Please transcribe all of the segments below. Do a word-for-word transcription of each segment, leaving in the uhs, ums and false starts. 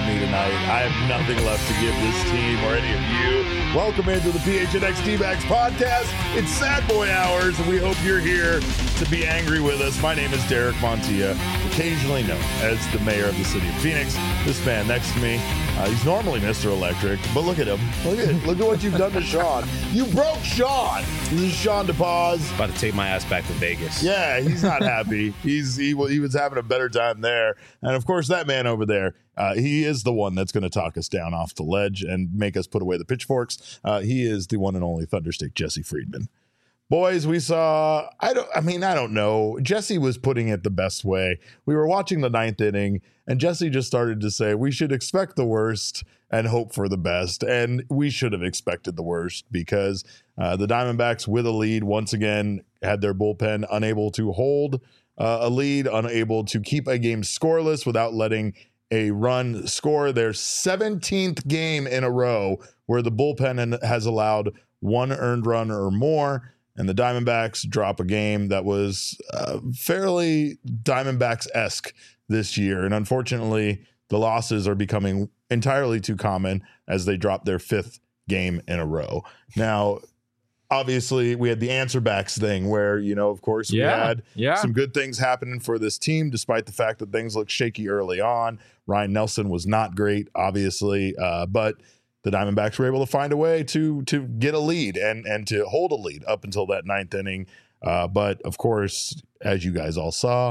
me tonight. I have nothing left to give this team or any of you. Welcome into the P H N X D-Backs podcast. It's Sad Boy Hours, and we hope you're here to be angry with us. My name is Derek Montilla, occasionally known as the mayor of the city of Phoenix. This man next to me, uh, he's normally Mister Electric, but look at him. Look at look at what you've done to Sean. You broke Sean. This is Sean DePaz. About to take my ass back to Vegas. Yeah, he's not happy. he's he, he was having a better time there. And of course, that man over there, uh, he is the one that's going to talk us down off the ledge and make us put away the pitchforks. Uh, he is the one and only Thunderstick Jesse Friedman. Boys, we saw, I don't, I mean, I don't know. Jesse was putting it the best way. We were watching the ninth inning, and Jesse just started to say, we should expect the worst and hope for the best. And we should have expected the worst because uh, the Diamondbacks with a lead once again had their bullpen unable to hold uh, a lead, unable to keep a game scoreless without letting a run score. Their seventeenth game in a row where the bullpen has allowed one earned run or more. And the Diamondbacks drop a game that was uh, fairly Diamondbacks-esque this year. And unfortunately, the losses are becoming entirely too common as they drop their fifth game in a row. Now, obviously, we had the answer backs thing where, you know, of course, we yeah, had yeah. some good things happening for this team, despite the fact that things looked shaky early on. Ryan Nelson was not great, obviously, uh, but the Diamondbacks were able to find a way to to get a lead and and to hold a lead up until that ninth inning. Uh, but of course, as you guys all saw,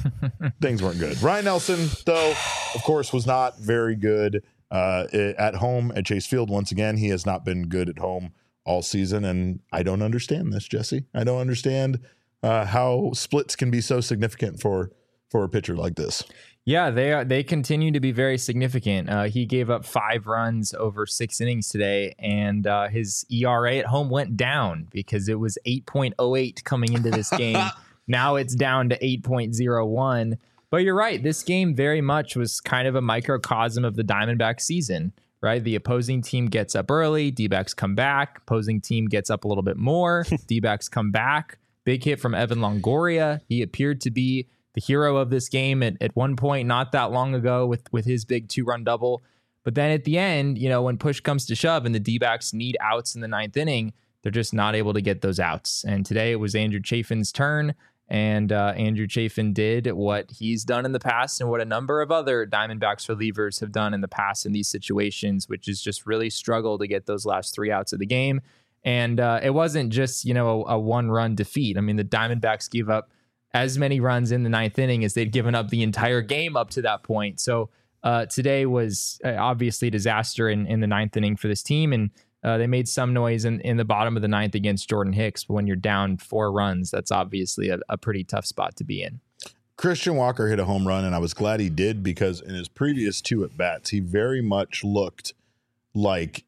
things weren't good. Ryan Nelson, though, of course, was not very good uh, at home at Chase Field. Once again, he has not been good at home all season, and I don't understand this, Jesse. I don't understand uh, how splits can be so significant for for a pitcher like this. Yeah, they are, they continue to be very significant. Uh, he gave up five runs over six innings today, and uh, his E R A at home went down because it was eight point oh eight coming into this game. Now it's down to eight point oh one. But you're right, this game very much was kind of a microcosm of the Diamondback season, right? The opposing team gets up early, D-backs come back, opposing team gets up a little bit more, D-backs come back. Big hit from Evan Longoria. He appeared to be the hero of this game at, at one point not that long ago with, with his big two-run double. But then at the end, you know, when push comes to shove and the D-backs need outs in the ninth inning, they're just not able to get those outs. And today it was Andrew Chafin's turn, and uh, Andrew Chafin did what he's done in the past and what a number of other Diamondbacks relievers have done in the past in these situations, which is just really struggle to get those last three outs of the game. And uh, it wasn't just, you know, a, a one-run defeat. I mean, the Diamondbacks gave up as many runs in the ninth inning as they'd given up the entire game up to that point. So uh, today was uh, obviously a disaster in, in the ninth inning for this team. And uh, they made some noise in, in the bottom of the ninth against Jordan Hicks. But when you're down four runs, that's obviously a, a pretty tough spot to be in. Christian Walker hit a home run, and I was glad he did because in his previous two at-bats, he very much looked like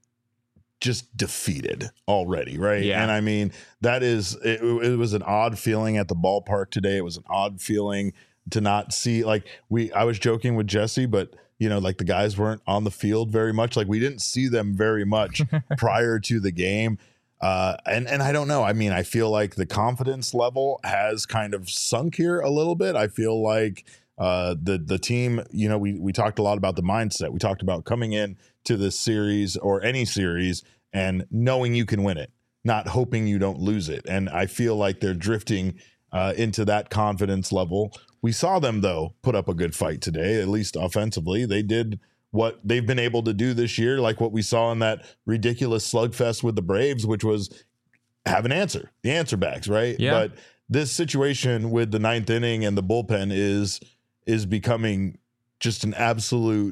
just defeated already, right? Yeah. And I mean, that is, it, it was an odd feeling at the ballpark today. It was an odd feeling to not see, like, we, I was joking with Jesse, but, you know, like the guys weren't on the field very much. Like, we didn't see them very much prior to the game. Uh, and, and I don't know. I mean, I feel like the confidence level has kind of sunk here a little bit. I feel like uh, the, the team, you know, we, we talked a lot about the mindset. We talked about coming in to this series or any series and knowing you can win it, not hoping you don't lose it. And I feel like they're drifting uh, into that confidence level. We saw them, though, put up a good fight today, at least offensively. They did what they've been able to do this year, like what we saw in that ridiculous slugfest with the Braves, which was have an answer, the answer backs, right? Yeah. But this situation with the ninth inning and the bullpen is is becoming just an absolute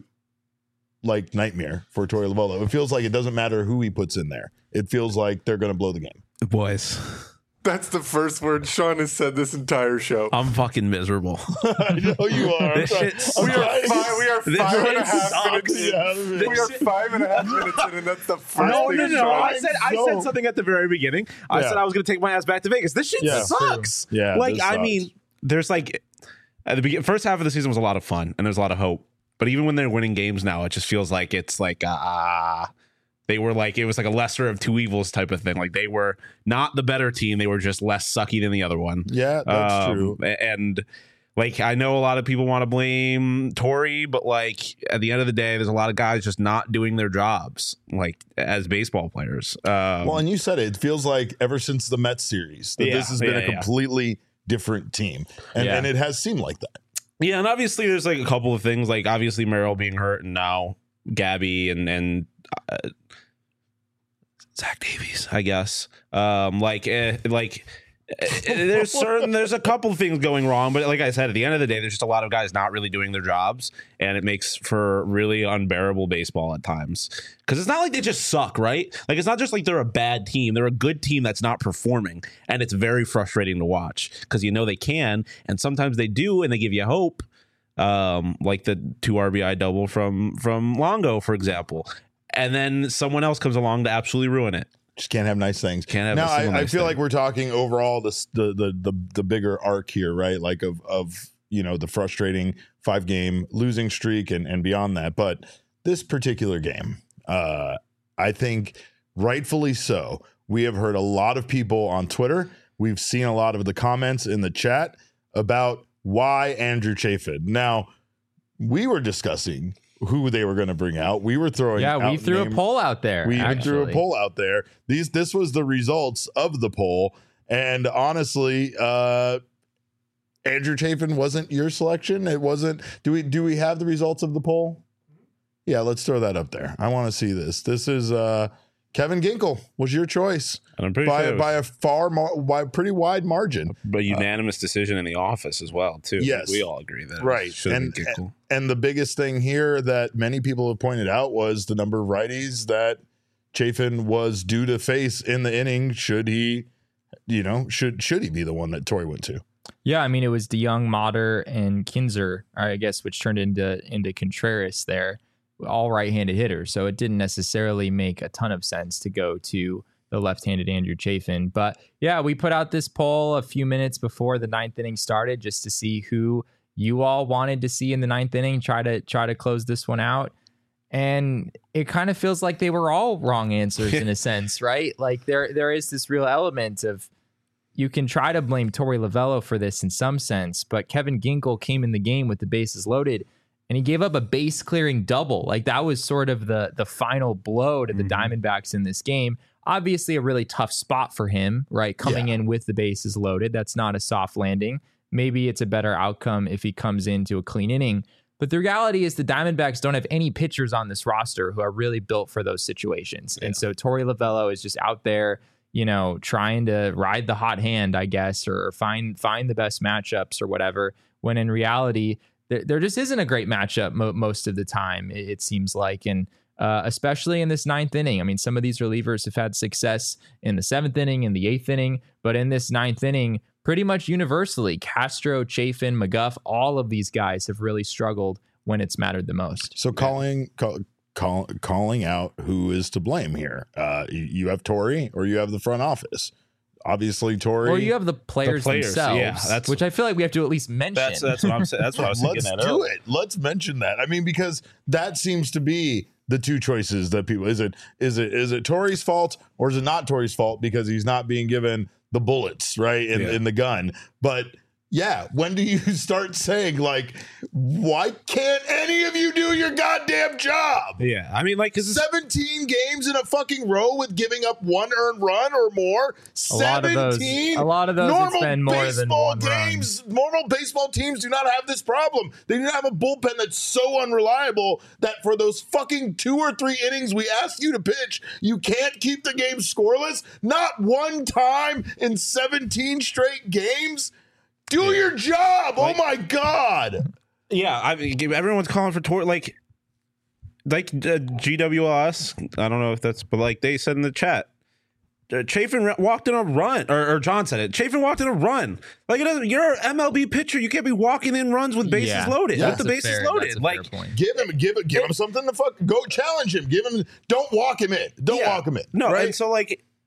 like nightmare for Torey Lovullo. It feels like it doesn't matter who he puts in there. It feels like they're going to blow the game. Boys, that's the first word Sean has said this entire show. I'm fucking miserable. I know you are. This shit sucks. We are five, we are This five and a shit half sucks. minutes in. Yeah, We are five and a half minutes in, and that's the first No, thing no, no. Sean I said I So- said something at the very beginning. I Yeah. said I was going to take my ass back to Vegas. This shit Yeah, sucks. true. Yeah, like this I sucks. mean, there's like at the begin- first half of the season was a lot of fun and there's a lot of hope. But even when they're winning games now, it just feels like it's like ah. Uh, They were like, it was like a lesser of two evils type of thing. Like they were not the better team. They were just less sucky than the other one. Yeah, that's Um, true. And Like, I know a lot of people want to blame Torey, but like at the end of the day, there's a lot of guys just not doing their jobs, like as baseball players. Um, Well, and you said it. It feels like ever since the Mets series that Yeah, this has been yeah, a yeah. completely different team, and, Yeah. and it has seemed like that. yeah, and obviously there's like a couple of things, like obviously Merrill being hurt, and now Gabby and and uh, Zach Davies, I guess. Um, like eh, like. there's certain there's a couple of things going wrong, but like I said, at the end of the day, there's just a lot of guys not really doing their jobs, and it makes for really unbearable baseball at times. Because it's not like they just suck, right? Like, it's not just like they're a bad team; they're a good team that's not performing, and it's very frustrating to watch because you know they can, and sometimes they do, and they give you hope, um, like the two R B I double from from Longo, for example, and then someone else comes along to absolutely ruin it. Just can't have nice things. Can't have now, a single I, I nice feel thing. like we're talking overall the, the the the the bigger arc here, right? Like of of you know the frustrating five game losing streak and and beyond that. But this particular game, uh, I think rightfully so. We have heard a lot of people on Twitter. We've seen a lot of the comments in the chat about why Andrew Chafin. Now, we were discussing who they were going to bring out. We were throwing Yeah, we out threw name- a poll out there. We even threw a actually. poll out there. These this was the results of the poll, and honestly, uh, Andrew Chafin wasn't your selection. It wasn't. Do we do we have the results of the poll? Yeah, let's throw that up there. I want to see this. This is uh, Kevin Ginkel was your choice And I'm pretty by sure it was by a far mar- by a pretty wide margin. a unanimous decision in the office as well, too. Yes. We all agree that Right. it should have And- been Gickle. And the biggest thing here that many people have pointed out was the number of righties that Chafin was due to face in the inning. Should he, you know, should should he be the one that Torey went to? Yeah, I mean it was DeYoung, Mater, and Kinzer, I guess, which turned into into Contreras there, all right-handed hitters. So it didn't necessarily make a ton of sense to go to the left-handed Andrew Chafin. But yeah, we put out this poll a few minutes before the ninth inning started just to see who you all wanted to see in the ninth inning. Try to try to close this one out. And it kind of feels like they were all wrong answers in a sense, right? Like there there is this real element of you can try to blame Torey Lovello for this in some sense, but Kevin Ginkel came in the game with the bases loaded and he gave up a base clearing double. Like that was sort of the the final blow to the Mm-hmm. Diamondbacks in this game. Obviously a really tough spot for him, right? Coming Yeah. in with the bases loaded. That's not a soft landing. Maybe it's a better outcome if he comes into a clean inning. But the reality is the Diamondbacks don't have any pitchers on this roster who are really built for those situations. And so Torey Lovello is just out there, you know, trying to ride the hot hand, I guess, or find find the best matchups or whatever, when in reality, there, there just isn't a great matchup mo- most of the time, it, it seems like. And uh, especially in this ninth inning. I mean, some of these relievers have had success in the seventh inning, in the eighth inning, but in this ninth inning, pretty much universally, Castro, Chafin, McGuff, all of these guys have really struggled when it's mattered the most. So calling call, call, calling out who is to blame here. Uh, you, you have Torey or you have the front office. Obviously, Torey. Or you have the players, players, themselves, yeah, that's- which I feel like we have to at least mention. That's that's what I'm saying. That's what I was thinking. Let's That do earlier. it. Let's mention that. I mean, because that seems to be the two choices that people is it is it is it Torey's fault or is it not Torey's fault because he's not being given the bullets right in, Yeah. in the gun. But yeah, when do you start saying like, why can't any of you do your goddamn job? Yeah, I mean, like, because seventeen games in a fucking row with giving up one earned run or more. A lot of those- seventeen. a lot of those, it's Normal been more than baseball one run. games. Normal baseball teams do not have this problem. They do not have a bullpen that's so unreliable that for those fucking two or three innings we asked you to pitch, you can't keep the game scoreless. Not one time in seventeen straight games. Do your job. Like- oh my God. yeah, I mean, everyone's calling for Tor like, like uh, G W L S. I don't know if that's, but like they said in the chat, uh, Chafin ra- walked in a run, or, or John said it. Chafin walked in a run. Like it doesn't. You're an M L B pitcher. You can't be walking in runs with bases Yeah. loaded. Yeah. with the That's a bases fair- loaded. that's a Like fair point. Give him, give it, give him something to fuck. Go challenge him. Give him. Don't walk him in. Don't Yeah. walk him in. No, right? and so like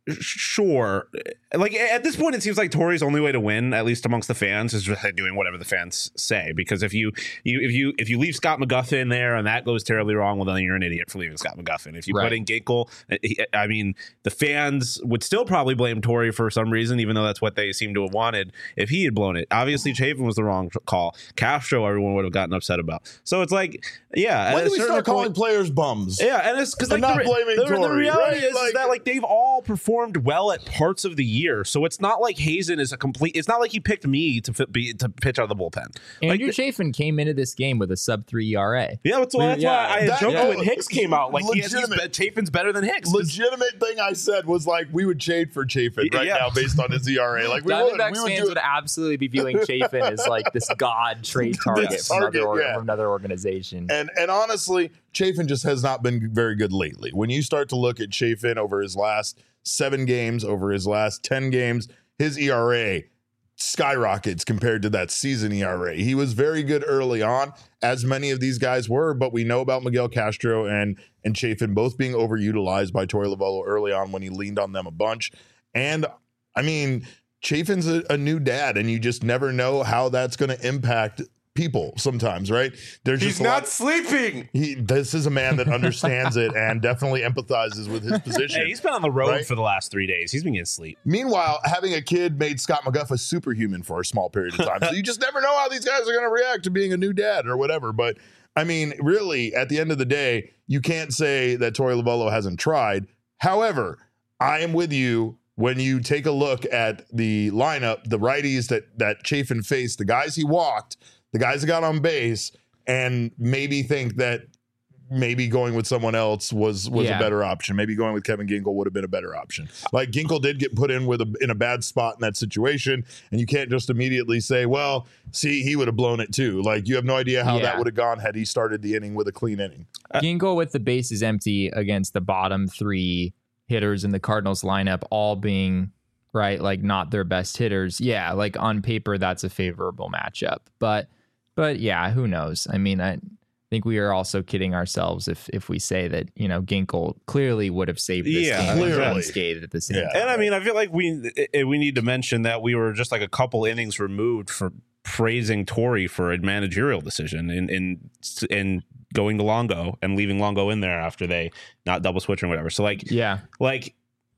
sure. Like at this point, it seems like Tori's only way to win, at least amongst the fans, is just doing whatever the fans say. Because if you, you if you if you leave Scott McGuffin there and that goes terribly wrong, well, then you're an idiot for leaving Scott McGuffin. If you Right. put in Ginkel, I mean, the fans would still probably blame Tori for some reason, even though that's what they seem to have wanted. If he had blown it, obviously Chafin was the wrong call. Castro, everyone would have gotten upset about. So it's like, yeah. When at do a we certain start calling point- players bums? Yeah, and it's because And like not the, blaming the, the Tori, reality right? is, Like- is that like they've all performed well at parts of the year, so it's not like Hazen is a complete. It's not like he picked me to fit, be to pitch out of the bullpen. Andrew Like, Chafin came into this game with a sub three E R A. yeah, that's why, that's Yeah, why I that- joked yeah. when Hicks came out. Like, he has, he's Legitimate. be, Chafin's better than Hicks. 'cause- Legitimate thing I said was like we would trade for Chafin right Yeah. now based on his E R A. Like we would, Diamondbacks we would fans do would it. absolutely be viewing Chafin as like this god trade target, This from, target, another, or- yeah. from another organization. And and honestly, Chafin just has not been very good lately. When you start to look at Chafin over his last seven games, over his last ten games, his E R A skyrockets compared to that season E R A. He was very good early on, as many of these guys were, but we know about Miguel Castro and and Chafin both being overutilized by Torey Lovullo early on when he leaned on them a bunch. And I mean, Chafin's a, a new dad, and you just never know how that's going to impact people sometimes, right? There's He's just a not lot- sleeping. he this is a man that understands it and definitely empathizes with his position. Hey, he's been on the road Right? for the last three days. He's been getting sleep. Meanwhile, having a kid made Scott McGuff a superhuman for a small period of time. So you just never know how these guys are going to react to being a new dad or whatever. But I mean, really, at the end of the day, you can't say that Torey Lovullo hasn't tried. However, I am with you when you take a look at the lineup, the righties that that Chafin faced, the guys he walked, the guys that got on base, and maybe think that maybe going with someone else was was Yeah. a better option. Maybe going with Kevin Ginkel would have been a better option. Like Ginkel did get put in with a, in a bad spot in that situation, and you can't just immediately say, "Well, see, he would have blown it too." Like you have no idea how Yeah. that would have gone had he started the inning with a clean inning. Ginkel with the bases empty against the bottom three hitters in the Cardinals lineup, all being right, like not their best hitters. Yeah, like on paper, that's a favorable matchup. But, but yeah, who knows? I mean, I think we are also kidding ourselves if if we say that, you know, Ginkel clearly would have saved this Yeah, game clearly. unscathed at the same Yeah. time. And I mean, I feel like we eh, we need to mention that we were just like a couple innings removed from praising Tori for a managerial decision in in in going to Longo and leaving Longo in there after they not double switching or whatever. So like, Yeah. like,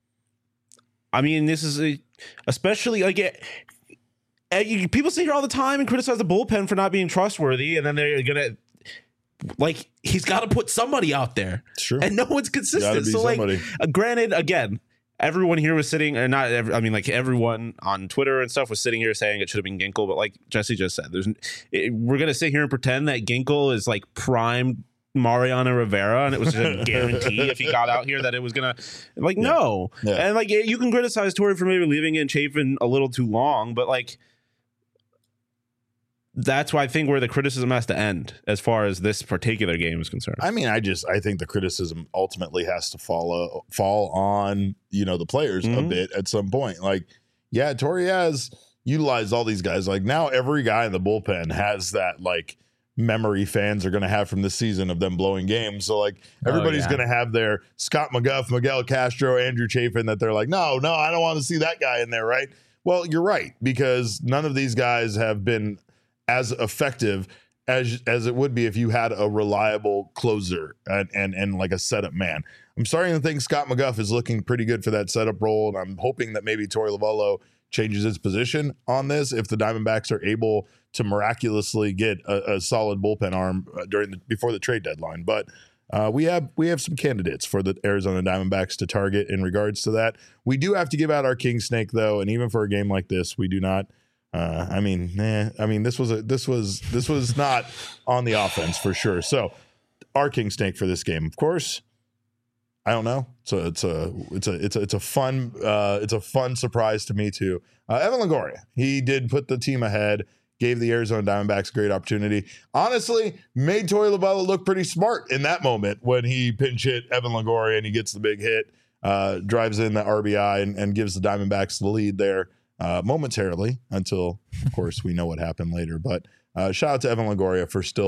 I mean, this is a, especially like it, eh, you- people sit here all the time and criticize the bullpen for not being trustworthy, and then they're gonna like he's got to put somebody out there, Sure. and no one's Gotta consistent. be So like, somebody. uh, granted, again, everyone here was sitting, or not? Every, I mean, like everyone on Twitter and stuff was sitting here saying it should have been Ginkel, but like Jesse just said, there's it, we're gonna sit here and pretend that Ginkel is like prime Mariano Rivera, and it was just a guarantee if he got out here that it was gonna like no, Yeah. and like you can criticize Tori for maybe leaving in Chafin a little too long, but like. That's why I think where the criticism has to end as far as this particular game is concerned. I mean, I just I think the criticism ultimately has to follow fall on, you know, the players a Mhm. bit at some point. Like, yeah, Torey has utilized all these guys. Like now every guy in the bullpen has that like memory fans are going to have from this season of them blowing games. So like everybody's yeah. going to have their Scott McGuff, Miguel Castro, Andrew Chafin that they're like, no, no, I don't want to see that guy in there, right? Well, you're right, because none of these guys have been as effective as as it would be if you had a reliable closer and and and like a setup man. I'm starting to think Scott McGuff is looking pretty good for that setup role, and I'm hoping that maybe Torey Lovullo changes his position on this if the Diamondbacks are able to miraculously get a, a solid bullpen arm uh, during the before the trade deadline. But uh, we have we have some candidates for the Arizona Diamondbacks to target in regards to that. We do have to give out our king snake though, and even for a game like this, we do not. Uh, I mean, nah, I mean, this was a this was this was not on the offense for sure. So, our king snake for this game, of course, I don't know. So it's a it's a it's a it's a fun uh, it's a fun surprise to me too. Uh, Evan Longoria, he did put the team ahead, gave the Arizona Diamondbacks a great opportunity. Honestly, made Torey Lovullo look pretty smart in that moment when he pinch hit Evan Longoria and he gets the big hit, uh, drives in the R B I and, and gives the Diamondbacks the lead there. Uh, momentarily until, of course, we know what happened later. But uh, shout out to Evan Longoria for still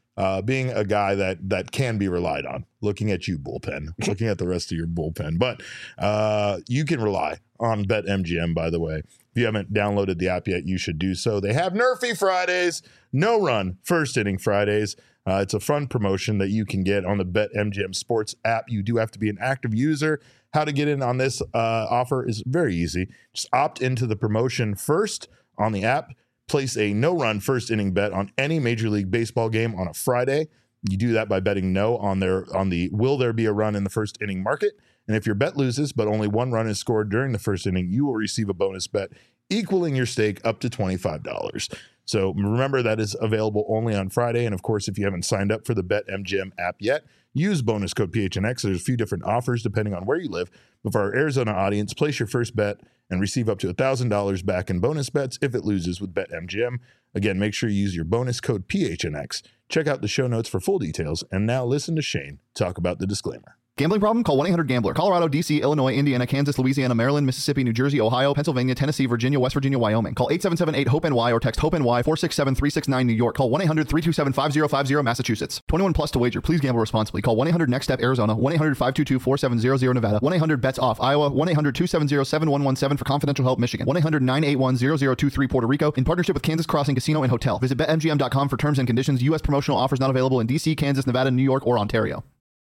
uh, being a guy that that can be relied on. Looking at you, bullpen. Looking at the rest of your bullpen. But uh, you can rely on BetMGM, by the way. If you haven't downloaded the app yet, you should do so. They have Nerfy Fridays, no run, first inning Fridays. Uh, it's a fun promotion that you can get on the BetMGM Sports app. You do have to be an active user. How to get in on this uh, offer is very easy. Just opt into the promotion first on the app. Place a no-run first inning bet on any Major League Baseball game on a Friday. You do that by betting no on their on the will there be a run in the first inning market. And if your bet loses, but only one run is scored during the first inning, you will receive a bonus bet equaling your stake up to twenty-five dollars. So remember, that is available only on Friday. And of course, if you haven't signed up for the BetMGM app yet, use bonus code P H N X. There's a few different offers depending on where you live. But for our Arizona audience, place your first bet and receive up to one thousand dollars back in bonus bets if it loses with BetMGM. Again, make sure you use your bonus code P H N X. Check out the show notes for full details. And now listen to Shane talk about the disclaimer. Gambling problem? Call one eight hundred gambler. Colorado, D C, Illinois, Indiana, Kansas, Louisiana, Maryland, Mississippi, New Jersey, Ohio, Pennsylvania, Tennessee, Virginia, West Virginia, Wyoming. Call eight seven seven eight hope N Y or text HOPE-NY four six seven three six nine New York. Call one eight hundred three two seven five zero five zero Massachusetts. twenty-one plus to wager. Please gamble responsibly. Call one eight hundred next step Arizona. one eight hundred five two two four seven zero zero Nevada. one eight hundred bets off Iowa. one eight hundred two seven zero seven one one seven for confidential help Michigan. one eight hundred nine eight one zero zero two three Puerto Rico. In partnership with Kansas Crossing Casino and Hotel. Visit bet M G M dot com for terms and conditions. U S promotional offers not available in D C, Kansas, Nevada, New York, or Ontario.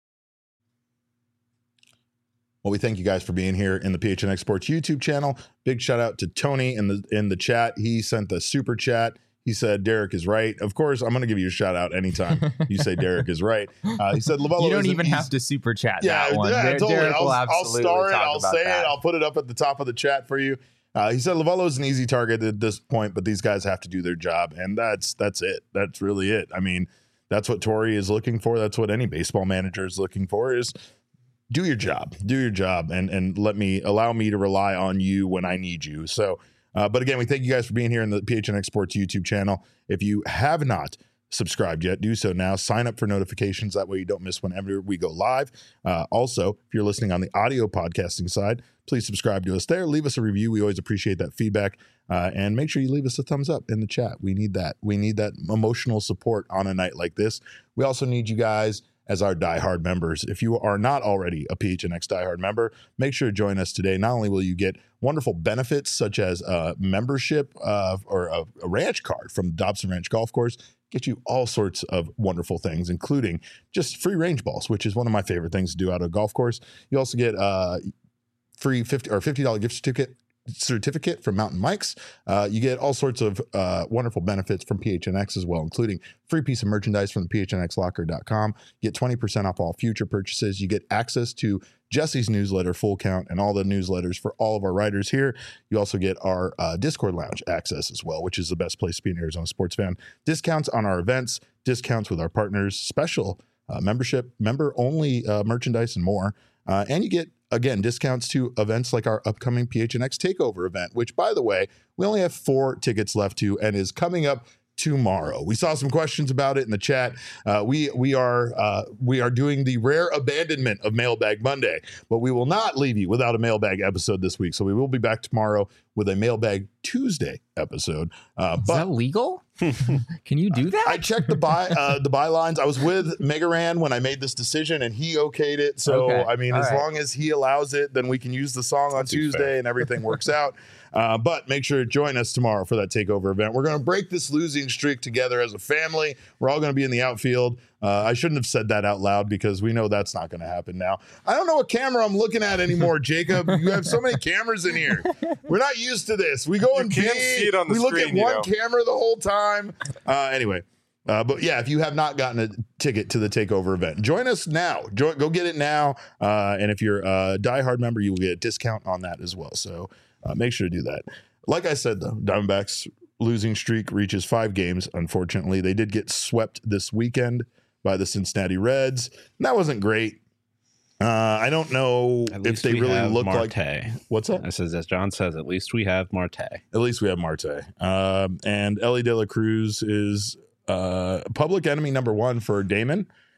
Well, we thank you guys for being here in the P H N X Sports YouTube channel. Big shout out to Tony in the in the chat. He sent the super chat. He said Derek is right. Of course, I'm going to give you a shout out anytime you say Derek is right. Uh, he said Lovullo. You don't even have to super chat yeah, that one. Yeah, Der- totally. Derek I'll, will I'll absolutely star it. talk I'll about say that. it. I'll put it up at the top of the chat for you. Uh, he said Lovullo is an easy target at this point, but these guys have to do their job, and that's that's it. That's really it. I mean, that's what Torey is looking for. That's what any baseball manager is looking for. Is do your job, do your job, and and let me allow me to rely on you when I need you. So, uh, but again, we thank you guys for being here in the P H N X Sports YouTube channel. If you have not subscribed yet, do so now. Sign up for notifications. That way you don't miss whenever we go live. Uh, also, if you're listening on the audio podcasting side, please subscribe to us there. Leave us a review. We always appreciate that feedback. Uh, and make sure you leave us a thumbs up in the chat. We need that. We need that emotional support on a night like this. We also need you guys as our diehard members. If you are not already a P H N X diehard member, make sure to join us today. Not only will you get wonderful benefits such as a membership uh, or a, a ranch card from Dobson Ranch Golf Course, get you all sorts of wonderful things, including just free range balls, which is one of my favorite things to do out of a golf course. You also get uh, free fifty or fifty dollars gift certificate certificate from Mountain Mike's. Uh, you get all sorts of uh, wonderful benefits from P H N X as well, including free piece of merchandise from the P H N X locker dot com. Get twenty percent off all future purchases. You get access to Jesse's newsletter, Full Count, and all the newsletters for all of our writers here. You also get our uh, Discord lounge access as well, which is the best place to be an Arizona sports fan. Discounts on our events, discounts with our partners, special uh, membership, member-only uh, merchandise, and more. Uh, and you get, again, discounts to events like our upcoming P H N X Takeover event, which, by the way, we only have four tickets left to and is coming up tomorrow. We saw some questions about it in the chat. Uh, we we are uh, we are doing the rare abandonment of Mailbag Monday, but we will not leave you without a mailbag episode this week. So we will be back tomorrow with a Mailbag Tuesday episode. Uh, Is but that legal? Can you do that? I checked the by uh, the bylines. I was with Megaran when I made this decision, and he okayed it. So Okay. I mean, All as right. long as he allows it, then we can use the song on That seems Tuesday, fair. and everything works out. Uh, but make sure to join us tomorrow for that takeover event. We're going to break this losing streak together as a family. We're all going to be in the outfield. Uh, I shouldn't have said that out loud because we know that's not going to happen now. I don't know what camera I'm looking at anymore, Jacob. You have so many cameras in here. We're not used to this. We go You and can't pee. see it on the we look screen, at you one know. camera the whole time. Uh, anyway. Uh, but yeah, if you have not gotten a ticket to the takeover event, join us now. Join, go get it now. Uh, and if you're a diehard member, you will get a discount on that as well. So uh, make sure to do that. Like I said, though, Diamondbacks losing streak reaches five games. Unfortunately, they did get swept this weekend by the Cincinnati Reds. And that wasn't great. Uh, I don't know At if least they we really have look Marte. like. What's that? I says, as John says, at least we have Marte. At least we have Marte. Um, and Ellie De La Cruz is uh, public enemy number one for Damon.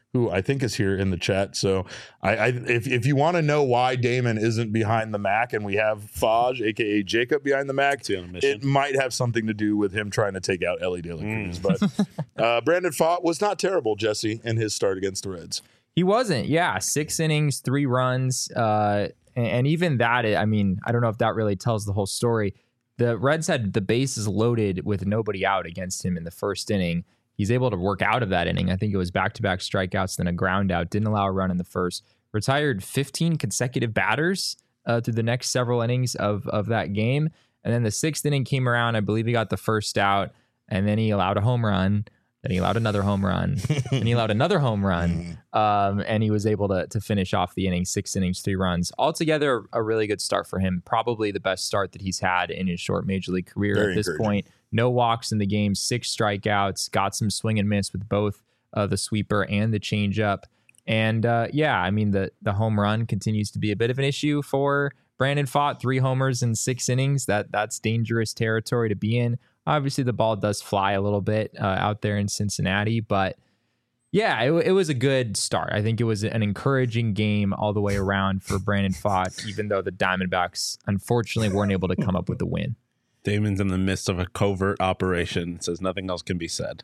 who I think is here in the chat. So I, I if if you want to know why Damon isn't behind the Mac and we have Faj, aka Jacob, behind the Mac, it might have something to do with him trying to take out Ellie De La Cruz. Mm. But uh, Brandon Pfaadt was not terrible, Jesse, in his start against the Reds. He wasn't. Yeah, six innings, three runs, uh, and, and even that. I mean, I don't know if that really tells the whole story. The Reds had the bases loaded with nobody out against him in the first inning. He's able to work out of that inning. I think it was back-to-back strikeouts, then a ground out. Didn't allow a run in the first. Retired fifteen consecutive batters uh, through the next several innings of, of that game. And then the sixth inning came around. I believe he got the first out, and then he allowed a home run. Then he allowed another home run. and he allowed another home run. Um, and he was able to, to finish off the inning, six innings, three runs. Altogether, a really good start for him. Probably the best start that he's had in his short major league career Very at this point. No walks in the game, six strikeouts, got some swing and miss with both uh, the sweeper and the changeup. And uh, yeah, I mean, the, the home run continues to be a bit of an issue for Brandon Pfaadt. Three homers in six innings. That That's dangerous territory to be in. Obviously, the ball does fly a little bit uh, out there in Cincinnati, but yeah, it, it was a good start. I think it was an encouraging game all the way around for Brandon Pfaadt, even though the Diamondbacks unfortunately weren't able to come up with the win. Damon's in the midst of a covert operation, says nothing else can be said.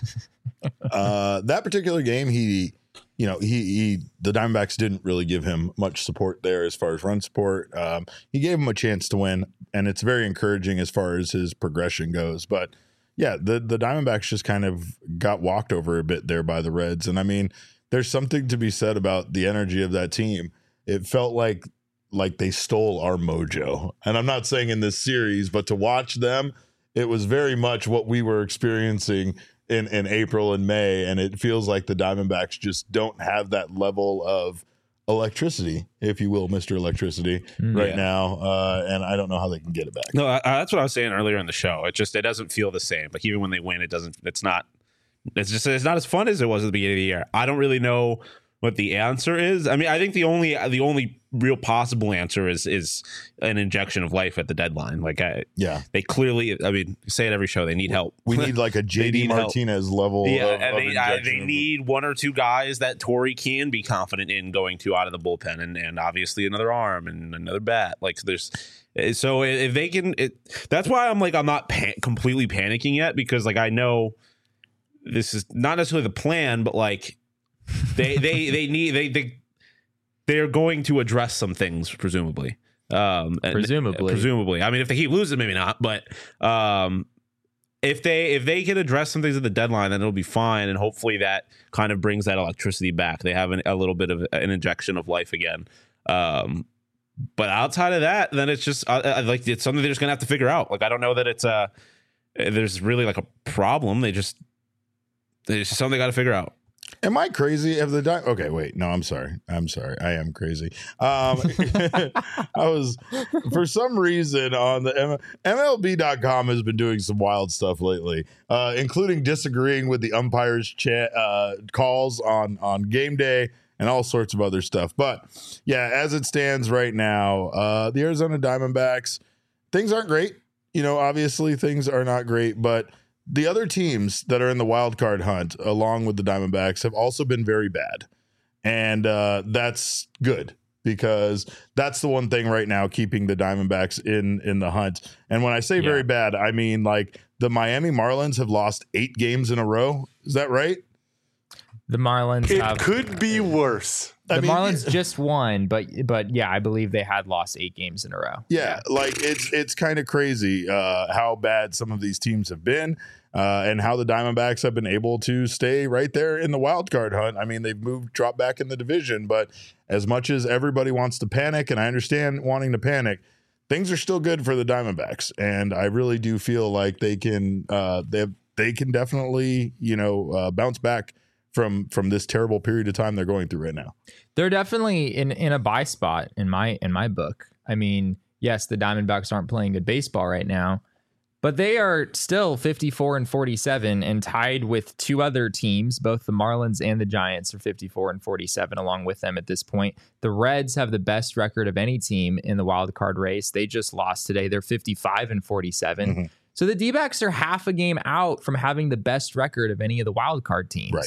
uh, that particular game, he, you know, he, he, the Diamondbacks didn't really give him much support there as far as run support. Um, he gave him a chance to win, and it's very encouraging as far as his progression goes. But yeah, the, the Diamondbacks just kind of got walked over a bit there by the Reds. And I mean, there's something to be said about the energy of that team. It felt like, like they stole our mojo. And I'm not saying in this series, but to watch them, it was very much what we were experiencing in, in April and May. And it feels like the Diamondbacks just don't have that level of electricity, if you will, Mister Electricity, mm, right yeah. now. Uh, and I don't know how they can get it back. No, I, I, that's what I was saying earlier in the show. It just, it doesn't feel the same. Like even when they win, it doesn't, it's not, it's just, it's not as fun as it was at the beginning of the year. I don't really know what the answer is. I mean, I think the only the only real possible answer is is an injection of life at the deadline. Like, I, yeah, they clearly. I mean, say it every show. They need help. We need like a J D Martinez help. level. Yeah, of, and of they, I, they need one or two guys that Torrey can be confident in going to out of the bullpen, and and obviously another arm and another bat. Like, there's. So if they can, it, that's why I'm like I'm not pan- completely panicking yet, because like I know this is not necessarily the plan, but like. they they they need they they they're going to address some things presumably um presumably and, presumably I mean if they keep losing maybe not, but um if they if they can address some things at the deadline, then it'll be fine, and hopefully that kind of brings that electricity back. They have an, a little bit of an injection of life again, um but outside of that, then it's just uh, like it's something they're just gonna have to figure out. Like I don't know that it's uh there's really like a problem. They just there's just something they got to figure out. Am I crazy? Have the di- okay? Wait, no, I'm sorry. I'm sorry. I am crazy. Um, I was for some reason on the M- MLB dot com has been doing some wild stuff lately, uh, including disagreeing with the umpires' cha- uh, calls on on game day and all sorts of other stuff. But yeah, as it stands right now, uh, the Arizona Diamondbacks, things aren't great. You know, obviously things are not great, but the other teams that are in the wild card hunt, along with the Diamondbacks, have also been very bad. And uh, that's good, because that's the one thing right now keeping the Diamondbacks in, in the hunt. And when I say yeah. very bad, I mean like the Miami Marlins have lost eight games in a row. Is that right? The Marlins it have, could be worse. The I mean, Marlins just won, but but yeah, I believe they had lost eight games in a row. Yeah, yeah. like it's it's kind of crazy uh, how bad some of these teams have been, uh, and how the Diamondbacks have been able to stay right there in the wild card hunt. I mean, they've moved, dropped back in the division, but as much as everybody wants to panic, and I understand wanting to panic, things are still good for the Diamondbacks, and I really do feel like they can uh, they they can definitely you know uh, bounce back from from this terrible period of time they're going through right now. They're definitely in, in a buy spot in my in my book. I mean, yes, the Diamondbacks aren't playing good baseball right now, but they are still fifty-four and forty-seven and tied with two other teams. Both the Marlins and the Giants are fifty-four and forty-seven along with them at this point. The Reds have the best record of any team in the wild card race. They just lost today. They're fifty-five and forty-seven. Mm-hmm. So the D-backs are half a game out from having the best record of any of the wild card teams. Right.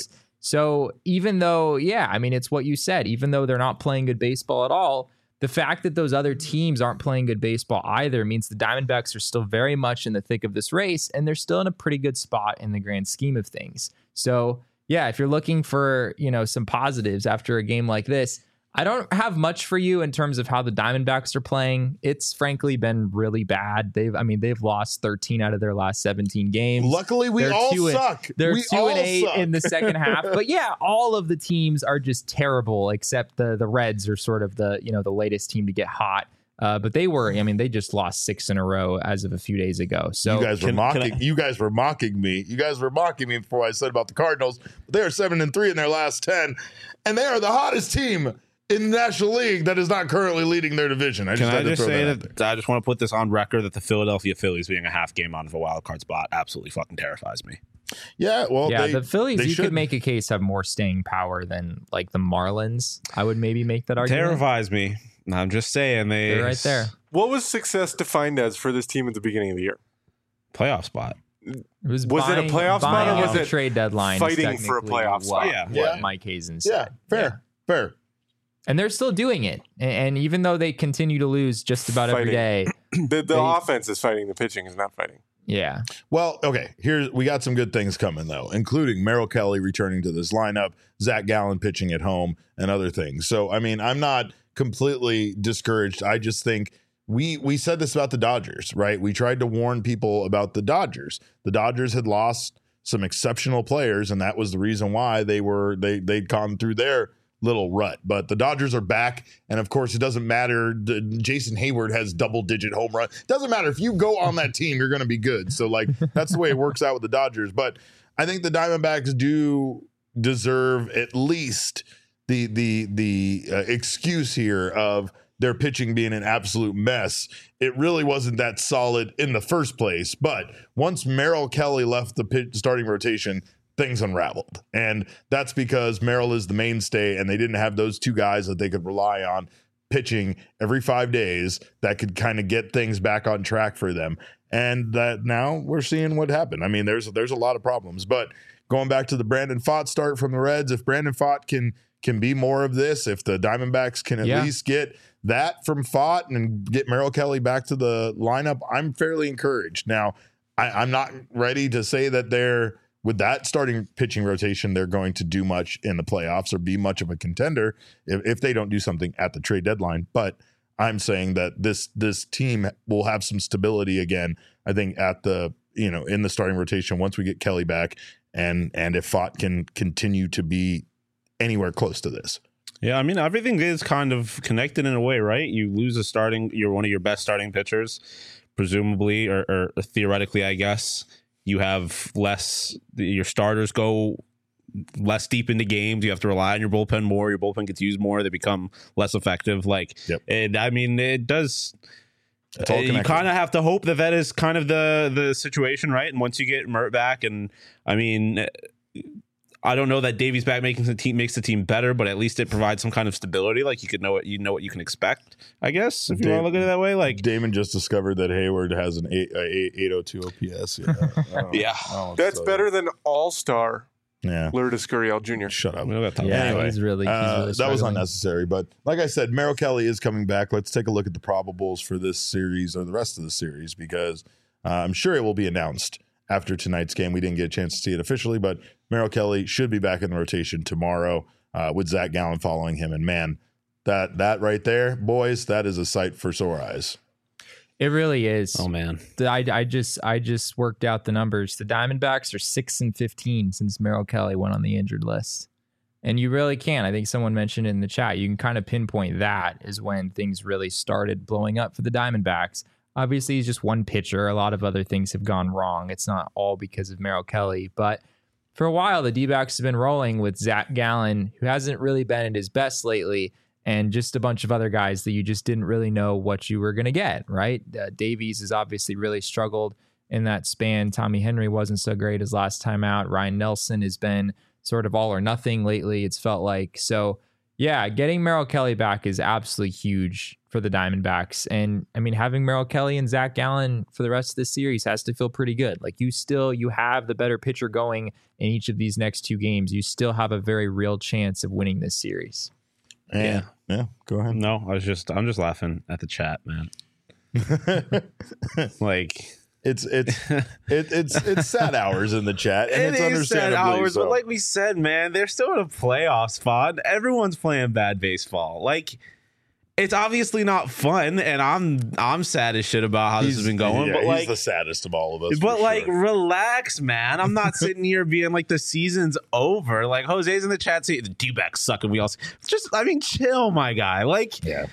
So even though, yeah, I mean, it's what you said, even though they're not playing good baseball at all, the fact that those other teams aren't playing good baseball either means the Diamondbacks are still very much in the thick of this race, and they're still in a pretty good spot in the grand scheme of things. So yeah, if you're looking for, you know, some positives after a game like this, I don't have much for you in terms of how the Diamondbacks are playing. It's frankly been really bad. They've, I mean, they've lost thirteen out of their last seventeen games. Luckily, we They're all two and- suck. They're we two all and eight suck. in the second half. But yeah, all of the teams are just terrible, except the the Reds are sort of the, you know, the latest team to get hot. Uh, but they were, I mean, they just lost six in a row as of a few days ago. So you guys were Can- mocking. can I- you guys were mocking me. You guys were mocking me before I said about the Cardinals. They are seven and three in their last ten, and they are the hottest team in the National League that is not currently leading their division. I just Can had I to just throw say that, out that, there. I just want to put this on record that the Philadelphia Phillies being a half game out of a wild card spot absolutely fucking terrifies me. Yeah, well, yeah, they, the Phillies, they you should could make a case have more staying power than like the Marlins. I would maybe make that argument. Terrifies me. I'm just saying they They're right there. What was success defined as for this team at the beginning of the year? Playoff spot. It was, Was it a buying, playoff spot or buying was at the it trade deadline? is fighting for a technically playoff what, spot? Yeah. what Yeah. Mike Hazen Yeah, said. fair, fair. And they're still doing it. And, and even though they continue to lose just about every Fighting. day, The, the They- offense is fighting. The pitching is not fighting. yeah. Well, okay. Here's we got some good things coming though, including Merrill Kelly returning to this lineup, Zach Gallen pitching at home, and other things. So, I mean, I'm not completely discouraged. I just think we we said this about the Dodgers, right? We tried to warn people about the Dodgers. The Dodgers had lost some exceptional players, and that was the reason why they were they they'd gone through their little rut. But the Dodgers are back, and of course, it doesn't matter. D- Jason Hayward has double-digit home run. It doesn't matter if you go on that team, you're going to be good. So, like, that's the way it works out with the Dodgers. But I think the Diamondbacks do deserve at least the the the uh, excuse here of their pitching being an absolute mess. It really wasn't that solid in the first place. But once Merrill Kelly left the pitch, starting rotation, things unraveled. And that's because Merrill is the mainstay, and they didn't have those two guys that they could rely on pitching every five days that could kind of get things back on track for them. And that now we're seeing what happened. I mean, there's there's a lot of problems. But going back to the Brandon Pfaadt start from the Reds, if Brandon Pfaadt can can be more of this, if the Diamondbacks can at Yeah. least get that from Pfaadt and get Merrill Kelly back to the lineup, I'm fairly encouraged. Now, I, I'm not ready to say that they're with that starting pitching rotation, they're going to do much in the playoffs or be much of a contender if, if they don't do something at the trade deadline. But I'm saying that this this team will have some stability again, I think, at the, you know, in the starting rotation once we get Kelly back, and and if Pfaadt can continue to be anywhere close to this. Yeah, I mean, everything is kind of connected in a way, right? You lose a starting, you're one of your best starting pitchers, presumably, or, or theoretically, I guess. You have less, your starters go less deep into games. You have to rely on your bullpen more. Your bullpen gets used more. They become less effective. Like, Yep. it, I mean, it does. It's all Uh, you connected. kind of have to hope that that is kind of the the situation, right? And once you get Mert back, and I mean, I don't know that Davies back making the team makes the team better, but at least it provides some kind of stability. Like you could know what you know what you can expect, I guess, if you want to look at it that way. Like, Damon just discovered that Hayward has an eight, uh, eight oh two O P S. Yeah, Oh, Yeah. oh, That's so- better than All-Star Yeah, Lourdes Gurriel Junior shut up. we don't got time. Yeah, Anyway, he's really, he's Uh, really that was struggling. unnecessary, but like I said, Merrill Kelly is coming back. Let's take a look at the probables for this series or the rest of the series, because uh, I'm sure it will be announced after tonight's game. We didn't get a chance to see it officially, but Merrill Kelly should be back in the rotation tomorrow uh, with Zach Gallen following him. And man, that that right there, boys, that is a sight for sore eyes. It really is. Oh man, The- I, I just I just worked out the numbers. The Diamondbacks are six and fifteen since Merrill Kelly went on the injured list, and you really can. I think someone mentioned it in the chat. You can kind of pinpoint that is when things really started blowing up for the Diamondbacks. Obviously, he's just one pitcher. A lot of other things have gone wrong. It's not all because of Merrill Kelly, but for a while the D-backs have been rolling with Zach Gallen, who hasn't really been at his best lately, and just a bunch of other guys that you just didn't really know what you were going to get, right? Uh, Davies has obviously really struggled in that span. Tommy Henry wasn't so great his last time out. Ryan Nelson has been sort of all or nothing lately, it's felt like. So Yeah, getting Merrill Kelly back is absolutely huge for the Diamondbacks. And I mean, having Merrill Kelly and Zach Gallen for the rest of the series has to feel pretty good. Like you still, you have the better pitcher going in each of these next two games. You still have a very real chance of winning this series. Yeah. Yeah. Go ahead. No, I was just, I'm just laughing at the chat, man. Like, It's it's it, it's it's sad hours in the chat, and it it's is sad understandably hours, so. but like we said, man, they're still in a playoff spot. Everyone's playing bad baseball. Like, it's obviously not fun, and I'm I'm sad as shit about how this has been going. Yeah, but he's like, the saddest of all of us. but for like, sure. relax, man. I'm not sitting here being like the season's over. Like Jose's in the chat saying the D-backs suck, and we all just, I mean, chill, my guy. Like, Yeah.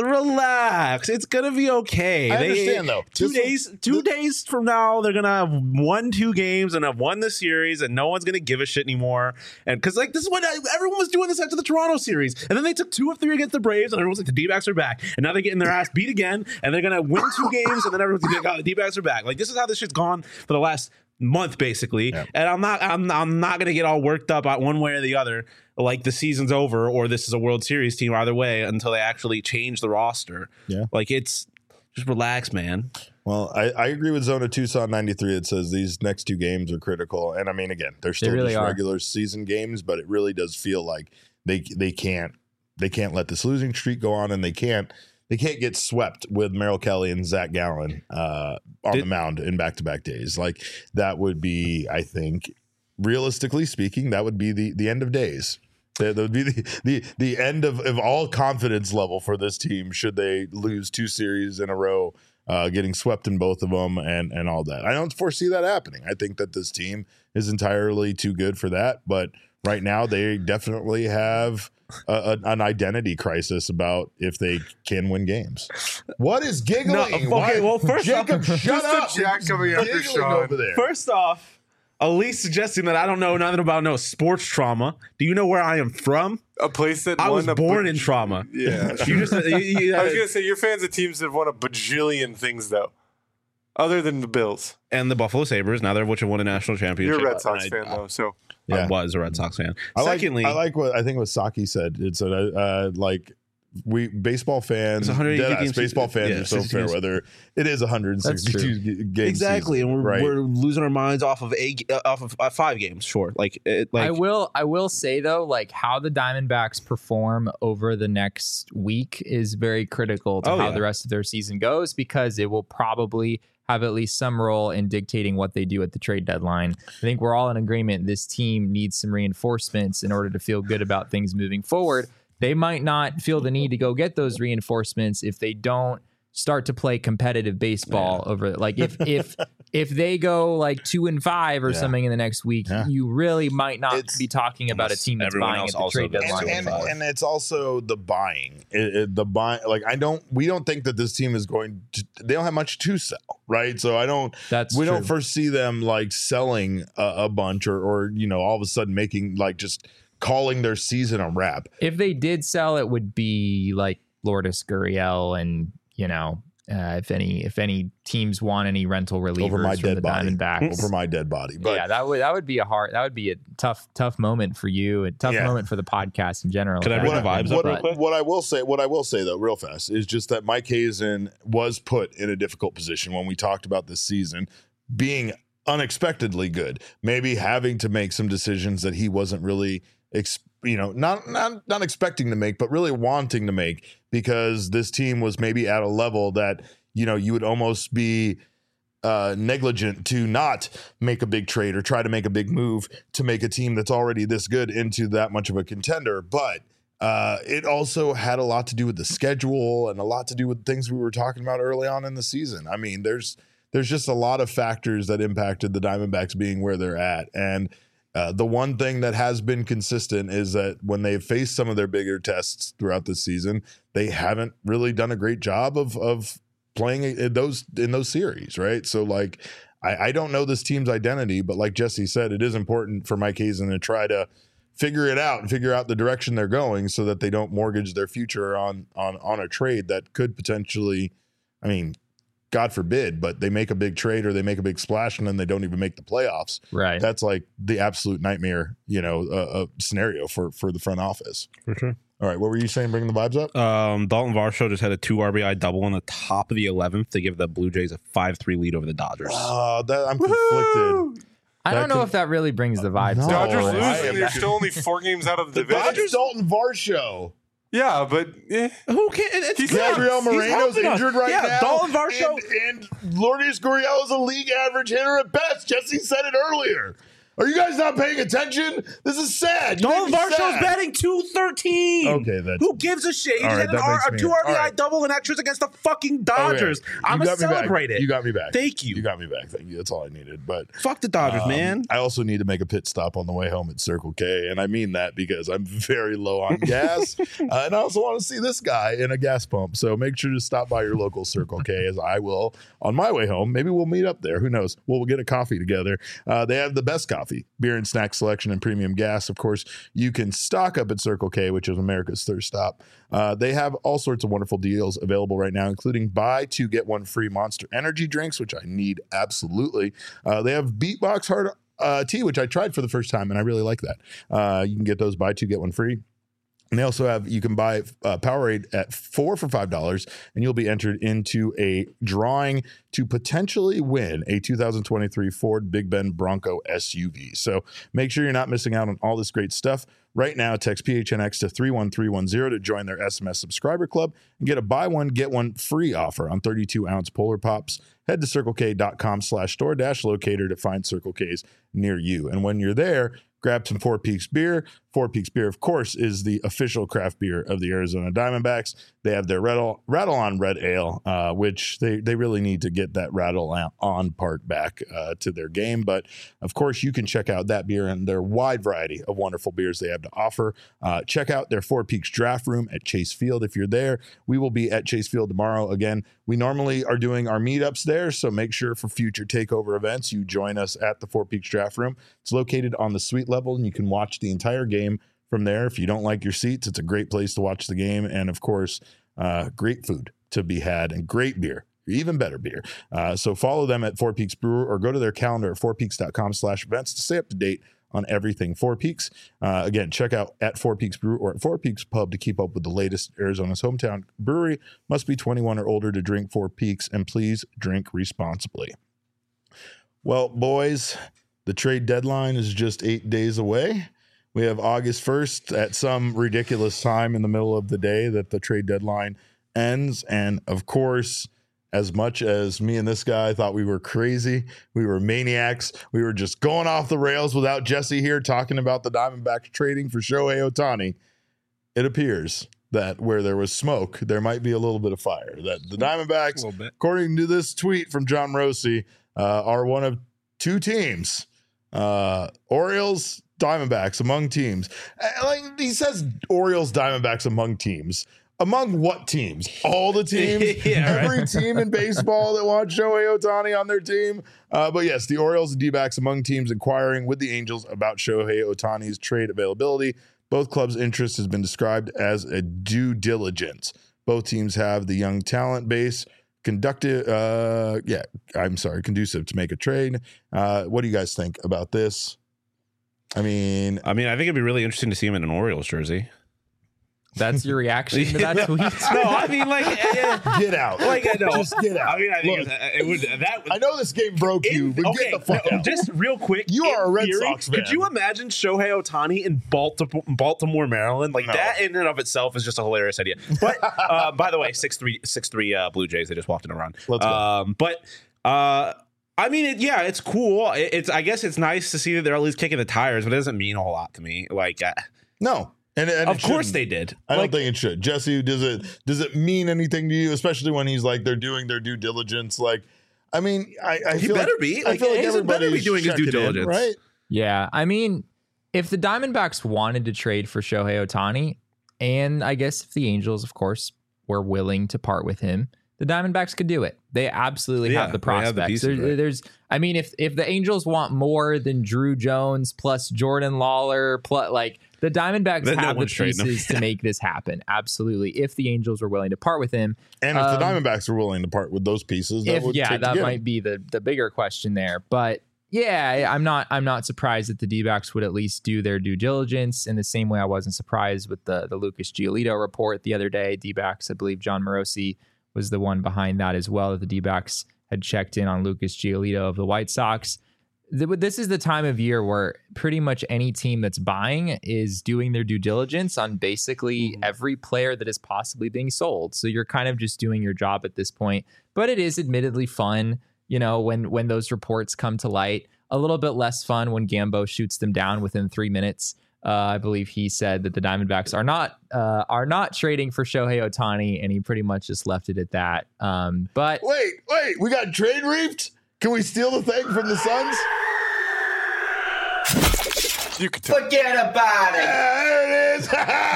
relax. It's gonna be okay. I They- understand, though. Two This days, two days from now, they're gonna have won two games and have won the series, and no one's gonna give a shit anymore. And because like this is what everyone was doing this after the Toronto series, and then they took two of three against the Braves, and everyone's like the D-backs are back, and now they're getting their ass beat again, and they're gonna win two games, and then everyone's like, oh, the D-backs are back. Like this is how this shit's gone for the last month basically. Yeah. And I'm not I'm I'm not gonna get all worked up on one way or the other, like the season's over or this is a World Series team, either way, until they actually change the roster. Yeah. Like it's just relax, man. Well, I, I agree with Zona Tucson ninety-three. It says these next two games are critical, and I mean, again, they're still really just are. regular season games, but it really does feel like they they can't they can't let this losing streak go on, and they can't they can't get swept with Merrill Kelly and Zach Gallen uh, on Did- the mound in back to back days. Like that would be, I think, realistically speaking, that would be the the end of days. That would be the, the, the end of, of all confidence level for this team should they lose two series in a row, uh, getting swept in both of them and, and all that. I don't foresee that happening. I think that this team is entirely too good for that. But right now, they definitely have a, a, an identity crisis about if they can win games. What is giggling? No, okay, Why- well, first Jacob, off- shut Just a up. Jack coming after Giggling Sean. over there. First off, Elise suggesting that I don't know nothing about no sports trauma. Do you know where I am from? A place that I won was a born ba- in trauma. Yeah. You just you, you, I was gonna say you're fans of teams that have won a bajillion things though, other than the Bills. and the Buffalo Sabres, now they're which have won a national championship. You're a Red Sox I, fan though, so I Yeah. was a Red Sox fan. I like, Secondly, I like what I think what Saki said. It's a uh, like we baseball fans, It's one hundred eighty deadass games. baseball fans Yeah, are so sixty fair games. weather. It is one hundred sixty-two g- game exactly, season, and we're, right? we're losing our minds off of a uh, off of uh, five games. Sure, like it, like I will I will say though, like how the Diamondbacks perform over the next week is very critical to Oh, how yeah. the rest of their season goes, because it will probably have at least some role in dictating what they do at the trade deadline. I think we're all in agreement this team needs some reinforcements in order to feel good about things moving forward. They might not feel the need to go get those reinforcements if they don't start to play competitive baseball over like if if if they go like two and five or Yeah. something in the next week, Yeah. you really might not It's- be talking about a team that's everyone buying else at the also trade does. deadline. and, and, and it's also the buying it, it- the buy like I don't we don't think that this team is going to they don't have much to sell, right? So I don't That's we true. don't foresee them like selling a, a bunch or or you know all of a sudden making like just calling their season a wrap. If they did sell, it would be like Lourdes Gurriel and you know uh, if any if any teams want any rental relievers Over my from dead the body. Diamondbacks. Over my dead body. But yeah, that would that would be a hard that would be a tough tough moment for you, a tough Yeah. moment for the podcast in general. Could I if bring that the happened. vibes up what, real quick? what I will say, what I will say though, real fast, is just that Mike Hazen was put in a difficult position when we talked about this season being unexpectedly good, maybe having to make some decisions that he wasn't really, ex- you know, not not not expecting to make, but really wanting to make, because this team was maybe at a level that you know you would almost be uh, negligent to not make a big trade or try to make a big move to make a team that's already this good into that much of a contender. But uh, it also had a lot to do with the schedule and a lot to do with things we were talking about early on in the season. I mean, there's there's just a lot of factors that impacted the Diamondbacks being where they're at. And uh, the one thing that has been consistent is that when they've faced some of their bigger tests throughout the season, they haven't really done a great job of of playing in those in those series, right? So like I, I don't know this team's identity, but like Jesse said, it is important for Mike Hazen to try to figure it out and figure out the direction they're going so that they don't mortgage their future on on on a trade that could potentially, I mean, God forbid, but they make a big trade or they make a big splash and then they don't even make the playoffs. Right. That's like the absolute nightmare, you know, uh, uh, scenario for for the front office. For sure. All right, what were you saying? Bringing the vibes up. Um, Dalton Varsho just had a two R B I double on the top of the eleventh to give the Blue Jays a five three lead over the Dodgers. Oh, that I'm conflicted. I That don't know could- if that really brings the vibes. No. up. Dodgers I losing. am- They're still only four games out of the The division. Dodgers, Dalton Varsho. Yeah, but eh. Who can? It's He's Gabriel He's Moreno's helping us. injured right yeah, now. Dalton Varsho. And, and Lourdes Gurriel is a league average hitter at best. Jesse said it earlier. Are you guys not paying attention? This is sad. You Dalton made me Varsho's sad. batting two thirteen. Okay, that's- Who gives a shit? He All just right, had an that R, makes a me- two R B I all right. double and extras against the fucking Dodgers. Okay. I'm You gonna got me back. celebrate it. You got me back. Thank you. You got me back. Thank you. That's all I needed. But Fuck the Dodgers, um, man. I also need to make a pit stop on the way home at Circle K, and I mean that because I'm very low on gas, uh, and I also want to see this guy in a gas pump. So make sure to stop by your local Circle K, as I will on my way home. Maybe we'll meet up there. Who knows? We'll, we'll get a coffee together. Uh, they have the best coffee, beer and snack selection, and premium gas. Of course, you can stock up at Circle K, which is America's thirst stop. Uh, they have all sorts of wonderful deals available right now, including buy two get one free Monster Energy drinks, which I need absolutely. Uh, they have Beatbox Hard uh, Tea, which I tried for the first time, and I really like that. Uh, you can get those buy two get one free. And they also have, you can buy uh, Powerade at four for five dollars, and you'll be entered into a drawing to potentially win a two thousand twenty-three Ford Big Bend Bronco S U V. So make sure you're not missing out on all this great stuff. Right now, text P H N X to three one three one zero to join their S M S subscriber club and get a buy one, get one free offer on thirty-two ounce Polar Pops. Head to circlek.com slash store dash locator to find Circle K's near you. And when you're there, grab some Four Peaks beer. Four Peaks beer, of course, is the official craft beer of the Arizona Diamondbacks. They have their Rattle, rattle on Red Ale, uh, which they, they really need to get that rattle on part back uh, to their game. But, of course, you can check out that beer and their wide variety of wonderful beers they have to offer. Uh, check out their Four Peaks Draft Room at Chase Field if you're there. We will be at Chase Field tomorrow. Again, we normally are doing our meetups there, so make sure for future takeover events you join us at the Four Peaks Draft Room. It's located on the suite level, and you can watch the entire game from there. If you don't like your seats, it's a great place to watch the game. And of course, uh, great food to be had and great beer, even better beer. Uh, so follow them at Four Peaks Brewer or go to their calendar at fourpeaks.com slash events to stay up to date on everything Four Peaks. Uh, again, check out at Four Peaks Brew or at Four Peaks Pub to keep up with the latest. Arizona's hometown brewery. Must be twenty-one or older to drink Four Peaks, and please drink responsibly. Well, boys, the trade deadline is just eight days away. We have August first at some ridiculous time in the middle of the day that the trade deadline ends. And of course, as much as me and this guy thought we were crazy, we were maniacs, we were just going off the rails without Jesse here talking about the Diamondbacks trading for Shohei Ohtani, it appears that where there was smoke, there might be a little bit of fire. That the Diamondbacks, according to this tweet from John Rossi, uh, are one of two teams. Uh, Orioles, Diamondbacks among teams. Uh, Like he says, Orioles, Diamondbacks among teams. Among what teams? All the teams? Yeah, right. Every team in baseball that wants Shohei Ohtani on their team? Uh, but yes, the Orioles and D-backs among teams inquiring with the Angels about Shohei Ohtani's trade availability. Both clubs' interest has been described as a due diligence. Both teams have the young talent base conductive, uh, yeah, I'm sorry, conducive to make a trade. Uh, what do you guys think about this? I mean, I mean, I think it'd be really interesting to see him in an Orioles jersey. That's your reaction to that tweet? No, I mean, like, uh, get out. like I know, Just get out. I mean, I think Look, it, it would that. I know this game broke you, In- but okay, get the fuck no, out. just real quick. You in are a Red theory, Sox fan. Could you imagine Shohei Ohtani in Baltimore, Baltimore, Maryland? Like No. that in and of itself is just a hilarious idea. But uh, by the way, six three six three uh, Blue Jays. They just walked in a run. Let's go. Um, but uh, I mean, it, yeah, it's cool. It, it's I guess it's nice to see that they're at least kicking the tires, but it doesn't mean a whole lot to me. Like, uh, No. And, and of it course shouldn't. they did. I Like, don't think it should. Jesse, does it does it mean anything to you, especially when he's like they're doing their due diligence? Like, I mean, I, I He feel better like, be. I Like, feel like he better be everybody's doing his due checking in, diligence. right? Yeah, I mean, if the Diamondbacks wanted to trade for Shohei Ohtani, and I guess if the Angels, of course, were willing to part with him, the Diamondbacks could do it. They absolutely Yeah, have the they have the prospects. pieces, There- right? There's, I mean, if if the Angels want more than Drew Jones plus Jordan Lawler plus like the Diamondbacks Then no have the one's trading him. pieces to make this happen. Absolutely, if the Angels were willing to part with him. And if the Um, Diamondbacks are willing to part with those pieces, that If would yeah, take to that get might him. be the the bigger question there. But Yeah, I'm not. I'm not surprised that the D-backs would at least do their due diligence in the same way I wasn't surprised with the the Lucas Giolito report the other day. D-backs, I believe John Morosi was the one behind that as well. That the D-backs had checked in on Lucas Giolito of the White Sox. This is the time of year where pretty much any team that's buying is doing their due diligence on basically mm-hmm. every player that is possibly being sold. So you're kind of just doing your job at this point. But it is admittedly fun. You know, when when those reports come to light, a little bit less fun when Gambo shoots them down within three minutes. Uh, I believe he said that the Diamondbacks are not uh, are not trading for Shohei Ohtani, and he pretty much just left it at that. Um, but wait, wait, we got trade reaped? Can we steal the thing from the Suns? You can tell. Forget about it. There it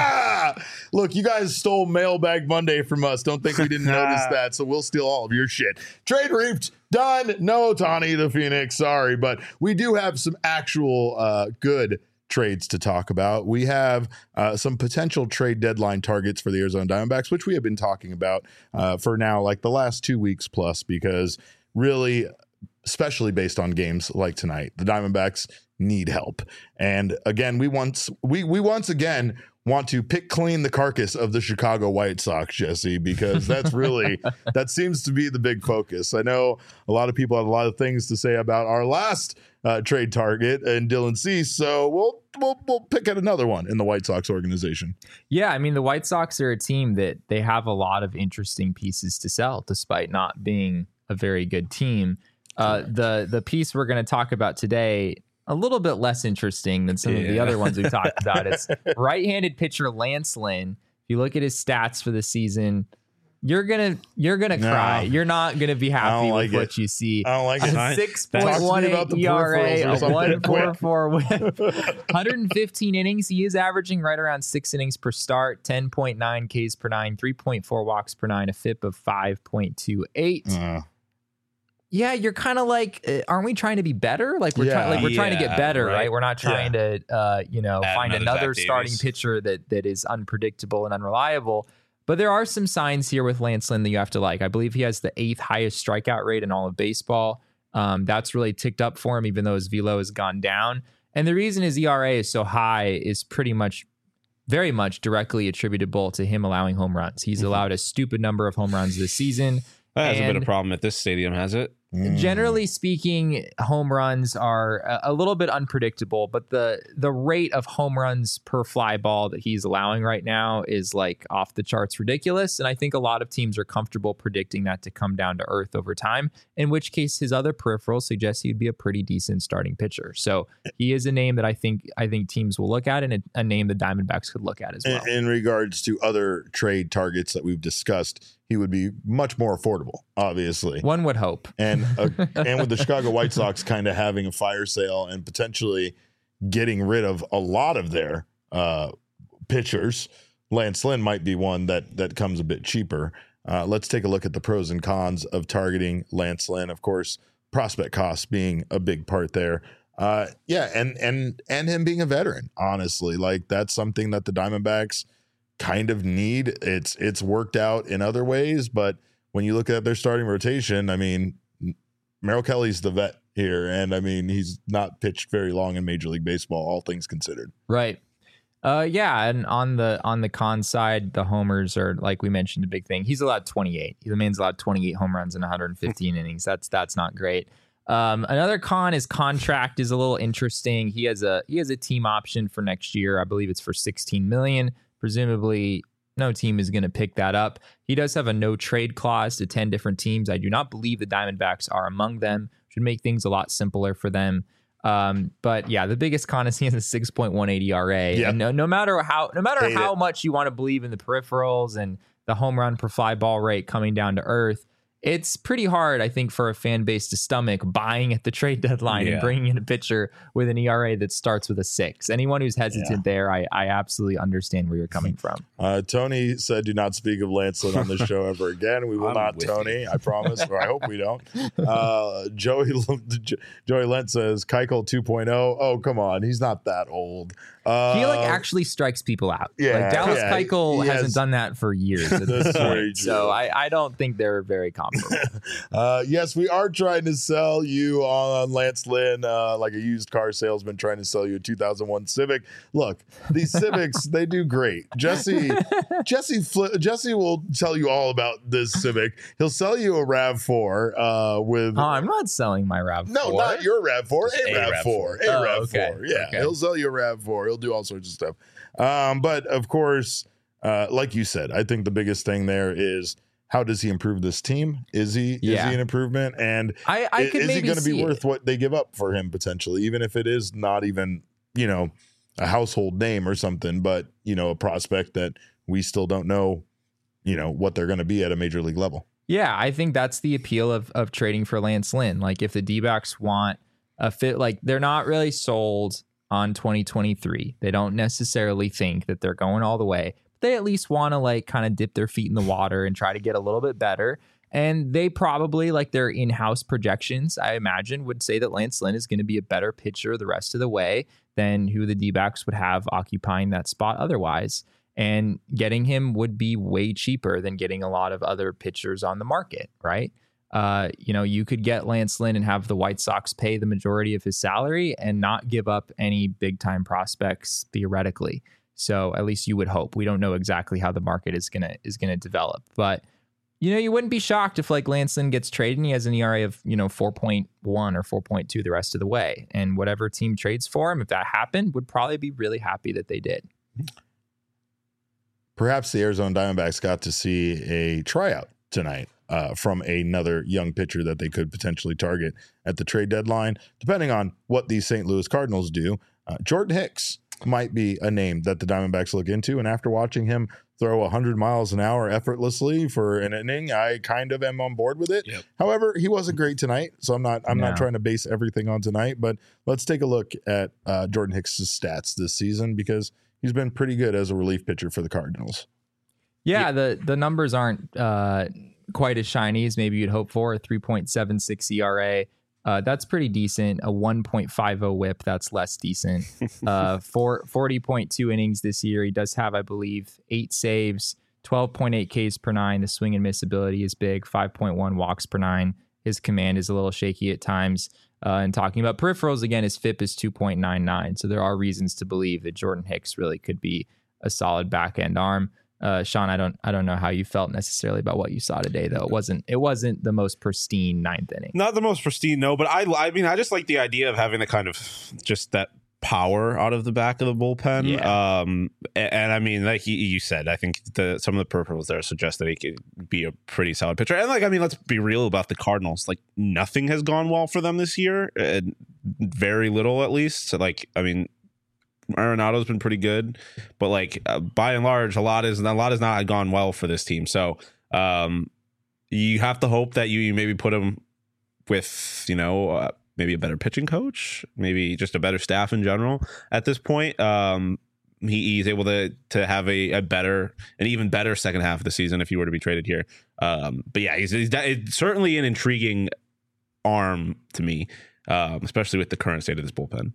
is. Look, you guys stole Mailbag Monday from us. Don't think we didn't notice that, so we'll steal all of your shit. Trade reaped. Done. No Ohtani to Phoenix. Sorry, but we do have some actual uh, good trades to talk about. We have uh, some potential trade deadline targets for the Arizona Diamondbacks, which we have been talking about uh, for now, like the last two weeks plus, because really, especially based on games like tonight, the Diamondbacks need help. And again, we once we we once again want to pick clean the carcass of the Chicago White Sox, Jesse, because that's really that seems to be the big focus. I know a lot of people have a lot of things to say about our last uh, trade target and Dylan Cease, so we'll we'll we'll pick at another one in the White Sox organization. Yeah, I mean the White Sox are a team that they have a lot of interesting pieces to sell, despite not being a very good team. Uh, the the piece we're going to talk about today, a little bit less interesting than some yeah. of the other ones we've talked about. It's right-handed pitcher Lance Lynn. If you look at his stats for the season, you're gonna you're gonna no. cry. You're not gonna be happy like with it. what you see. I don't like a it. six point one eight E R A, a one point four four whip, one hundred fifteen innings. He is averaging right around six innings per start, ten point nine Ks per nine, three point four walks per nine, a F I P of five point two eight. Uh. Yeah, you're kind of like, uh, aren't we trying to be better? Like we're yeah, trying, like we're yeah, trying to get better, right? right? We're not trying yeah. to, uh, you know, Add find another, another starting Davis. pitcher that that is unpredictable and unreliable. But there are some signs here with Lance Lynn that you have to like. I believe he has the eighth highest strikeout rate in all of baseball. Um, that's really ticked up for him, even though his velo has gone down. And the reason his E R A is so high is pretty much, very much directly attributable to him allowing home runs. He's mm-hmm. allowed a stupid number of home runs this season. That hasn't been a problem at this stadium, has it? Generally speaking, home runs are a, a little bit unpredictable, but the the rate of home runs per fly ball that he's allowing right now is like off the charts ridiculous. And I think a lot of teams are comfortable predicting that to come down to earth over time, in which case his other peripherals suggest he'd be a pretty decent starting pitcher. So he is a name that I think I think teams will look at, and a, a name the Diamondbacks could look at as well. In, in regards to other trade targets that we've discussed, he would be much more affordable, obviously. One would hope. And uh, and with the Chicago White Sox kind of having a fire sale and potentially getting rid of a lot of their uh, pitchers, Lance Lynn might be one that that comes a bit cheaper. Uh, let's take a look at the pros and cons of targeting Lance Lynn. Of course, prospect costs being a big part there. Uh, yeah, and and and him being a veteran, honestly, like that's something that the Diamondbacks kind of need. It's it's worked out in other ways, but when you look at their starting rotation, I mean, Merrill Kelly's the vet here, and I mean he's not pitched very long in Major League Baseball, all things considered. Right. Uh, yeah, and on the on the con side, the homers are, like we mentioned, a big thing. He's allowed twenty-eight. The man's allowed twenty-eight home runs in one hundred fifteen innings. That's that's not great. Um, another con is contract is a little interesting. He has a he has a team option for next year. I believe it's for sixteen million dollars. Presumably, no team is going to pick that up. He does have a no trade clause to ten different teams. I do not believe the Diamondbacks are among them. Should make things a lot simpler for them. Um, but yeah, the biggest con is he has a six point one eight E R A. Yeah. And no, no matter how, no matter Hate how it. much you want to believe in the peripherals and the home run per fly ball rate coming down to earth, it's pretty hard, I think, for a fan base to stomach buying at the trade deadline Yeah. and bringing in a pitcher with an E R A that starts with a six. Anyone who's hesitant Yeah. there, I, I absolutely understand where you're coming from. Uh, Tony said, "Do not speak of Lance Lynn on this show ever again." We will I'm not, with Tony. you. I promise, or I hope we don't. Uh, Joey Joey Lent says, "Keuchel two point oh." Oh, come on, he's not that old. Uh, he like actually strikes people out. yeah, like Dallas yeah, Keuchel he hasn't has- done that for years at this That's very point. true. So I, I don't think they're very competent. possible. uh, yes, we are trying to sell you on Lance Lynn, uh, like a used car salesman trying to sell you a two thousand one Civic. Look, these Civics, they do great. Jesse, Jesse, Fli- Jesse will tell you all about this Civic. He'll sell you a RAV four uh, with. Oh, I'm not selling my RAV four. No, not your RAV four, Just a a RAV RAV four, four. a Oh, RAV okay. four. Yeah, Okay. he'll sell you a RAV four. He'll do all sorts of stuff. Um, but of course, uh, like you said, I think the biggest thing there is how does he improve this team? Is he Yeah. is he an improvement? And I, I i- could is he maybe going to be see worth it. what they give up for him potentially, even if it is not even, you know, a household name or something, but you know, a prospect that we still don't know, you know, what they're going to be at a major league level. Yeah, I think that's the appeal of of trading for Lance Lynn. Like if the D-backs want a fit, like they're not really sold on twenty twenty-three. They don't necessarily think that they're going all the way. They at least want to like kind of dip their feet in the water and try to get a little bit better. And they probably, like their in-house projections, I imagine, would say that Lance Lynn is going to be a better pitcher the rest of the way than who the D-backs would have occupying that spot otherwise. And getting him would be way cheaper than getting a lot of other pitchers on the market, right? Uh, you know, you could get Lance Lynn and have the White Sox pay the majority of his salary and not give up any big-time prospects theoretically. So at least you would hope. We don't know exactly how the market is gonna is gonna develop, but you know, you wouldn't be shocked if like Lance Lynn gets traded and he has an E R A of, you know, four point one or four point two the rest of the way. And whatever team trades for him, if that happened, would probably be really happy that they did. Perhaps the Arizona Diamondbacks got to see a tryout tonight uh, from another young pitcher that they could potentially target at the trade deadline. Depending on what the Saint Louis Cardinals do, uh, Jordan Hicks might be a name that the Diamondbacks look into. And after watching him throw one hundred miles an hour effortlessly for an inning, I kind of am on board with it. Yep. However, he wasn't great tonight, so I'm not I'm No. not trying to base everything on tonight. But let's take a look at uh, Jordan Hicks' stats this season, because he's been pretty good as a relief pitcher for the Cardinals. Yeah, the the numbers aren't uh, quite as shiny as maybe you'd hope for. A three point seven six E R A. Uh, that's pretty decent. A one point five oh whip, that's less decent. Uh, for forty point two innings this year. He does have, I believe, eight saves, twelve point eight Ks per nine. The swing and miss ability is big, five point one walks per nine. His command is a little shaky at times. Uh, and talking about peripherals, again, his F I P is two point nine nine. So there are reasons to believe that Jordan Hicks really could be a solid back end arm. Uh, Sean, I don't, I don't know how you felt necessarily about what you saw today, though. It wasn't, it wasn't the most pristine ninth inning. Not the most pristine, no, but I, I mean, I just like the idea of having the kind of just that power out of the back of the bullpen. Yeah. Um, and, and I mean, like you, you said, I think the some of the peripherals there suggest that he could be a pretty solid pitcher. And like, I mean, let's be real about the Cardinals. Like, nothing has gone well for them this year. Uh, very little, at least. So, like, I mean, Arenado's been pretty good, but like uh, by and large, a lot is a lot has not gone well for this team. So um, you have to hope that you, you maybe put him with, you know, uh, maybe a better pitching coach, maybe just a better staff in general. At this point, um, he, he's able to to have a, a better, an even better second half of the season if he were to be traded here. Um, but yeah, he's, he's it's certainly an intriguing arm to me, um, especially with the current state of this bullpen.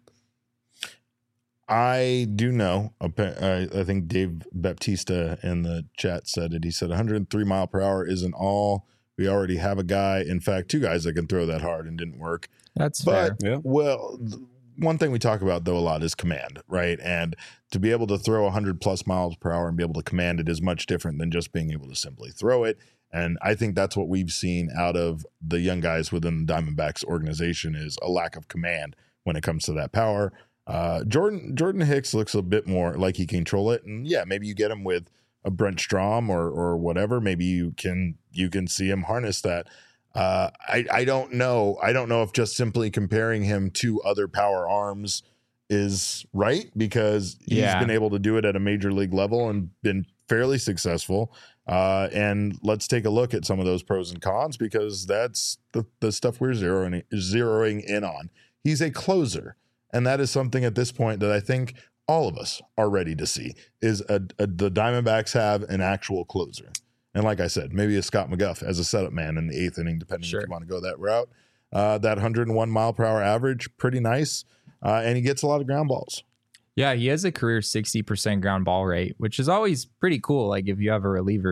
I do know. I I think Dave Baptista in the chat said it. He said one hundred three mile per hour isn't all. We already have a guy, in fact, two guys that can throw that hard and didn't work. That's But, fair. Yeah. well, th- one thing we talk about, though, a lot is command, right? And to be able to throw one hundred plus miles per hour and be able to command it is much different than just being able to simply throw it. And I think that's what we've seen out of the young guys within the Diamondbacks organization is a lack of command when it comes to that power. Uh, Jordan Jordan Hicks looks a bit more like he can control it, and yeah, maybe you get him with a Brent Strom or or whatever. Maybe you can you can see him harness that. Uh, I I don't know. I don't know if just simply comparing him to other power arms is right, because he's Yeah. been able to do it at a major league level and been fairly successful. Uh, and let's take a look at some of those pros and cons, because that's the the stuff we're zeroing zeroing in on. He's a closer. And that is something at this point that I think all of us are ready to see is a, a, the Diamondbacks have an actual closer. And like I said, maybe a Scott McGuff as a setup man in the eighth inning, depending Sure. if you want to go that route. Uh, that one hundred one mile per hour average, pretty nice. Uh, and he gets a lot of ground balls. Yeah, he has a career sixty percent ground ball rate, which is always pretty cool. Like if you have a reliever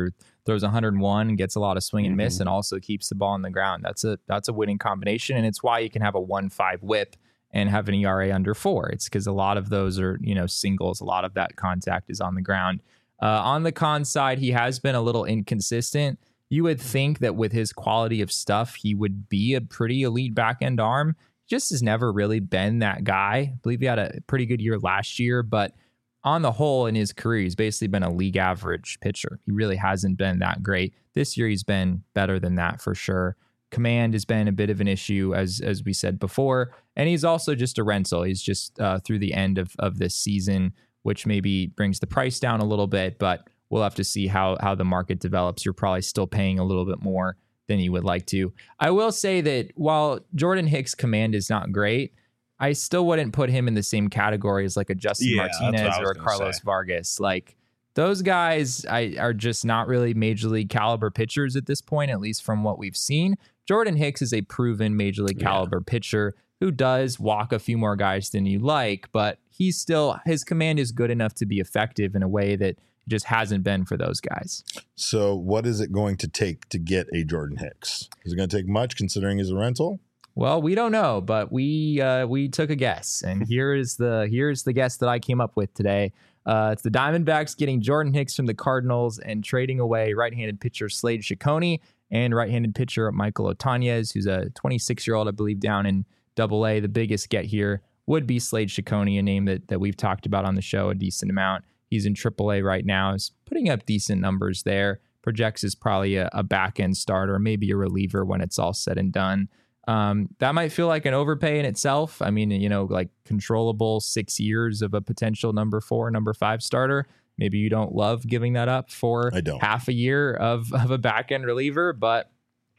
throws one hundred one, gets a lot of swing and miss, Mm-hmm. and also keeps the ball on the ground. That's a that's a winning combination, and it's why you can have a one five whip and have an E R A under four. It's because a lot of those are, you know, singles. A lot of that contact is on the ground. Uh, on the con side, he has been a little inconsistent. You would think that with his quality of stuff, he would be a pretty elite back end arm. Just has never really been that guy. I believe he had a pretty good year last year, but on the whole in his career, he's basically been a league average pitcher. He really hasn't been that great. This year, he's been better than that for sure. Command has been a bit of an issue, as as we said before, and he's also just a rental. He's just uh, through the end of, of this season, which maybe brings the price down a little bit, but we'll have to see how how the market develops. You're probably still paying a little bit more than you would like to. I will say that while Jordan Hicks' command is not great, I still wouldn't put him in the same category as like a Justin Yeah, that's what Martinez I was or a gonna Carlos say. Vargas. Like those guys I, are just not really major league caliber pitchers at this point, at least from what we've seen. Jordan Hicks is a proven major league caliber yeah. pitcher who does walk a few more guys than you like, but he's still, his command is good enough to be effective in a way that just hasn't been for those guys. So what is it going to take to get a Jordan Hicks? Is it going to take much considering he's a rental? Well, we don't know, but we uh, we took a guess, and here is the here's the guess that I came up with today. Uh, it's the Diamondbacks getting Jordan Hicks from the Cardinals and trading away right-handed pitcher Slade Ciccone and right-handed pitcher Michael Otanez, who's a twenty-six-year-old, I believe, down in Double A. The biggest get here would be Slade Ciccone, a name that that we've talked about on the show a decent amount. He's in Triple A right now. Is putting up decent numbers there. Projects is probably a, a back-end starter, maybe a reliever when it's all said and done. Um, that might feel like an overpay in itself. I mean, you know, like controllable six years of a potential number four, number five starter. Maybe you don't love giving that up for I don't. half a year of, of a back-end reliever. But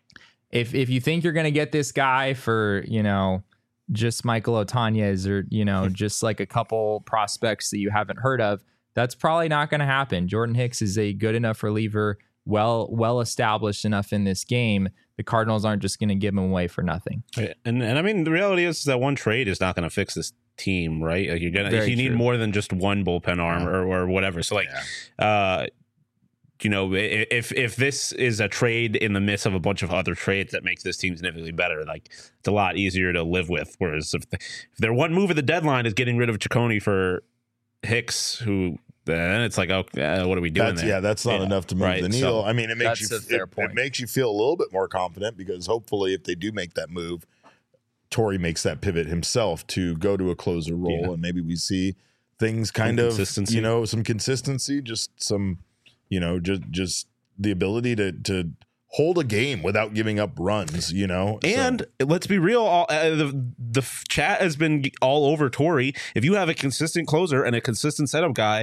if if you think you're going to get this guy for, you know, just Michael Otanez or, you know, just like a couple prospects that you haven't heard of, that's probably not going to happen. Jordan Hicks is a good enough reliever, well well established enough in this game. The Cardinals aren't just going to give him away for nothing. And and I mean, the reality is that one trade is not going to fix this team, right? Like you're gonna Very you need true. more than just one bullpen arm Yeah. or, or whatever. So like, uh, you know, i- if if this is a trade in the midst of a bunch of other trades that makes this team significantly better, like it's a lot easier to live with. Whereas if, the, if their one move at the deadline is getting rid of Ciccone for Hicks, who then it's like, oh, uh, what are we doing That's, there? yeah, that's not Yeah, enough to move right, the needle. so I mean, it makes that's you a fair it, point. it makes you feel a little bit more confident because hopefully, if they do make that move, Torrey makes that pivot himself to go to a closer role, Yeah. and maybe we see things kind of consistency. you know, some consistency, just some, you know, just just the ability to to hold a game without giving up runs. You know, So- And let's be real, all, uh, the the f- chat has been all over Torrey. If you have a consistent closer and a consistent setup guy,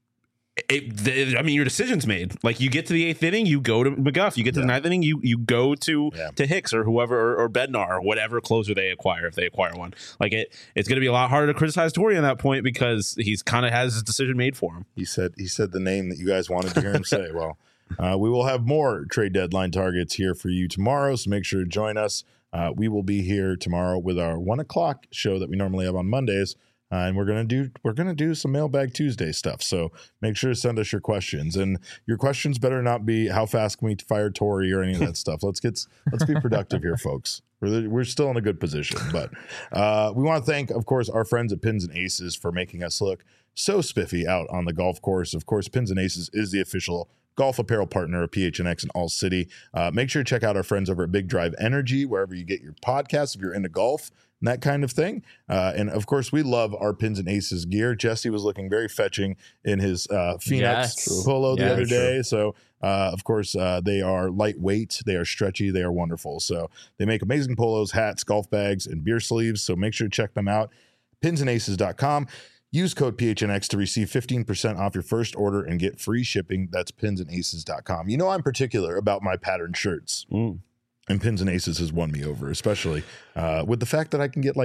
it, the, I mean, your decision's made. Like you get to the eighth inning, you go to McGuff. You get to Yeah. the ninth inning, you you go to Yeah. to Hicks or whoever or, or Bednar or whatever closer they acquire if they acquire one. Like it, it's going to be a lot harder to criticize Torrey on that point because he's kind of has his decision made for him. He said he said the name that you guys wanted to hear him say. Well, uh, we will have more trade deadline targets here for you tomorrow, so make sure to join us. Uh, we will be here tomorrow with our one o'clock show that we normally have on Mondays, uh, and we're gonna do we're gonna do some Mailbag Tuesday stuff. So make sure to send us your questions, and your questions better not be how fast can we fire Torrey or any of that stuff. Let's get let's be productive here, folks. We're, we're still in a good position, but uh, we want to thank, of course, our friends at Pins and Aces for making us look so spiffy out on the golf course. Of course, Pins and Aces is the official golf apparel partner of P H N X and All City. Uh, make sure to check out our friends over at Big Drive Energy, wherever you get your podcasts, if you're into golf and that kind of thing. Uh, and of course, we love our Pins and Aces gear. Jesse was looking very fetching in his uh, Phoenix Yes. polo the Yeah, other true. day. So, uh, of course, uh, they are lightweight, they are stretchy, they are wonderful. So they make amazing polos, hats, golf bags, and beer sleeves. So make sure to check them out. pins and aces dot com. Use code P H N X to receive fifteen percent off your first order and get free shipping. That's pins and aces dot com. You know, I'm particular about my patterned shirts. Mm. And Pins and Aces has won me over, especially uh, with the fact that I can get like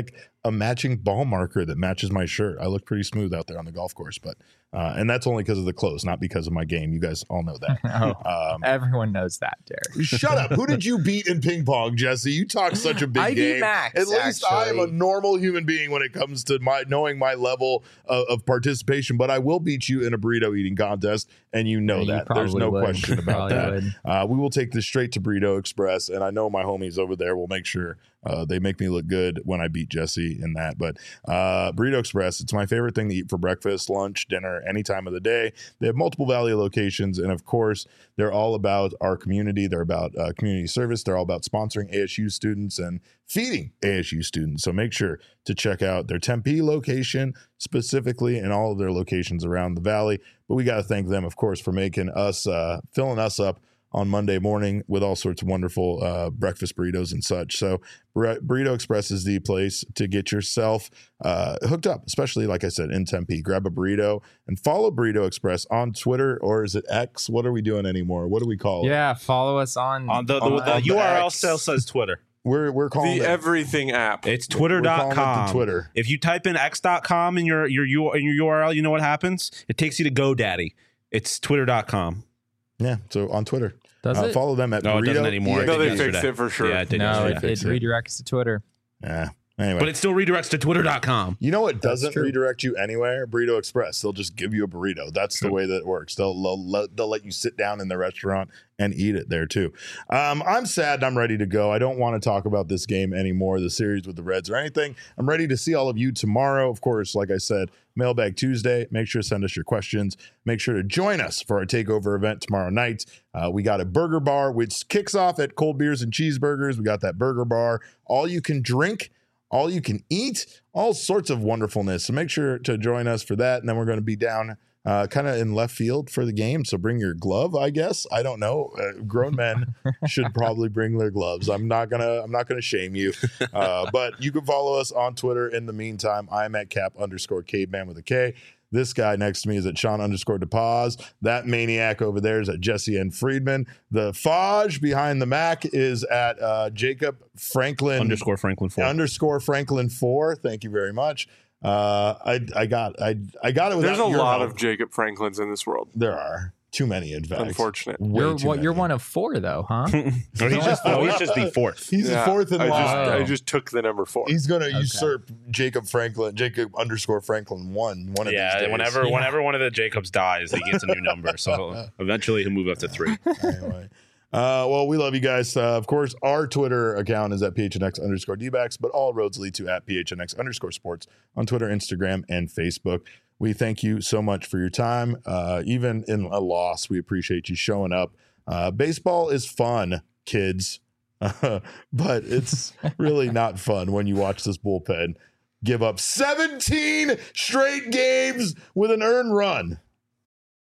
a matching ball marker that matches my shirt. I look pretty smooth out there on the golf course, but uh, and that's only because of the clothes, not because of my game. You guys all know that. Oh, Um, everyone knows that, Derek. Shut up. Who did you beat in ping pong, Jesse? You talk such a big I beat game. Max, At least I am a actually. normal human being when it comes to my knowing my level of, of participation, but I will beat you in a burrito eating contest, and you know Yeah, you that. There's probably no would. question about Probably that. would. Uh, we will take this straight to Burrito Express, and I know my homies over there will make sure uh, they make me look good when I beat Jesse in that. But uh, Burrito Express, it's my favorite thing to eat for breakfast, lunch, dinner, any time of the day. They have multiple Valley locations, and of course, they're all about our community. They're about uh, community service. They're all about sponsoring A S U students and feeding A S U students. So make sure to check out their Tempe location specifically and all of their locations around the Valley. But we got to thank them, of course, for making us, uh, filling us up on Monday morning with all sorts of wonderful uh, breakfast burritos and such. So Bur- Burrito Express is the place to get yourself uh, hooked up, especially, like I said, in Tempe. Grab a burrito and follow Burrito Express on Twitter, or is it X? What are we doing anymore? What do we call it? Yeah, follow us on. On the, the, On- the on the U R L X. still says Twitter. We're, we're calling The it everything app. It's We're twitter dot calling it com. the Twitter. If you type in x dot com in your your U- in your U R L, you know what happens? It takes you to GoDaddy. It's twitter dot com. Yeah, so on Twitter. Does Uh, it? follow them at No, it doesn't Burrito anymore. E X It no, they did fixed yesterday. it for sure. Yeah, it did no, yesterday. it, it Fix it. redirects to Twitter. Yeah. Anyway. But it still redirects to twitter dot com. You know what doesn't true. redirect you anywhere? Burrito Express. They'll just give you a burrito. That's the way that it works. They'll, they'll, let- they'll let you sit down in the restaurant and eat it there too. Um, I'm sad and I'm ready to go. I don't want to talk about this game anymore, the series with the Reds or anything. I'm ready to see all of you tomorrow. Of course, like I said, Mailbag Tuesday. Make sure to send us your questions. Make sure to join us for our takeover event tomorrow night. Uh, we got a burger bar, which kicks off at Cold Beers and Cheeseburgers. We got that burger bar. All you can drink, all you can eat, all sorts of wonderfulness. So make sure to join us for that. And then we're going to be down uh, kind of in left field for the game. So bring your glove, I guess. I don't know. Uh, grown men should probably bring their gloves. I'm not gonna. I'm not gonna shame you. Uh, but you can follow us on Twitter. In the meantime, I'm at cap underscore caveman with a K. This guy next to me is at Sean underscore DePaz. That maniac over there is at Jesse N. Friedman. The Faj behind the Mac is at uh, Jacob Franklin Underscore Franklin four. underscore Franklin four. Thank you very much. Uh, I I got I I got it. Without There's a your lot help. of Jacob Franklins in this world. There are too many. In fact, Unfortunate. Way You're too what? You're many. one of four, though, huh? No, he's just no, he's just the fourth. He's Yeah, the fourth in I line. just, line. I just took the number four. He's going to usurp Jacob Franklin, Jacob underscore Franklin one. One of these Yeah, days. whenever Yeah. whenever one of the Jacobs dies, he gets a new number. So eventually he'll move up to three. Anyway. Uh, well, we love you guys. Uh, of course, our Twitter account is at P H N X underscore D-backs, but all roads lead to at P H N X underscore sports on Twitter, Instagram, and Facebook. We thank you so much for your time. Uh, even in a loss, we appreciate you showing up. Uh, baseball is fun, kids, uh, but it's really not fun when you watch this bullpen give up seventeen straight games with an earned run.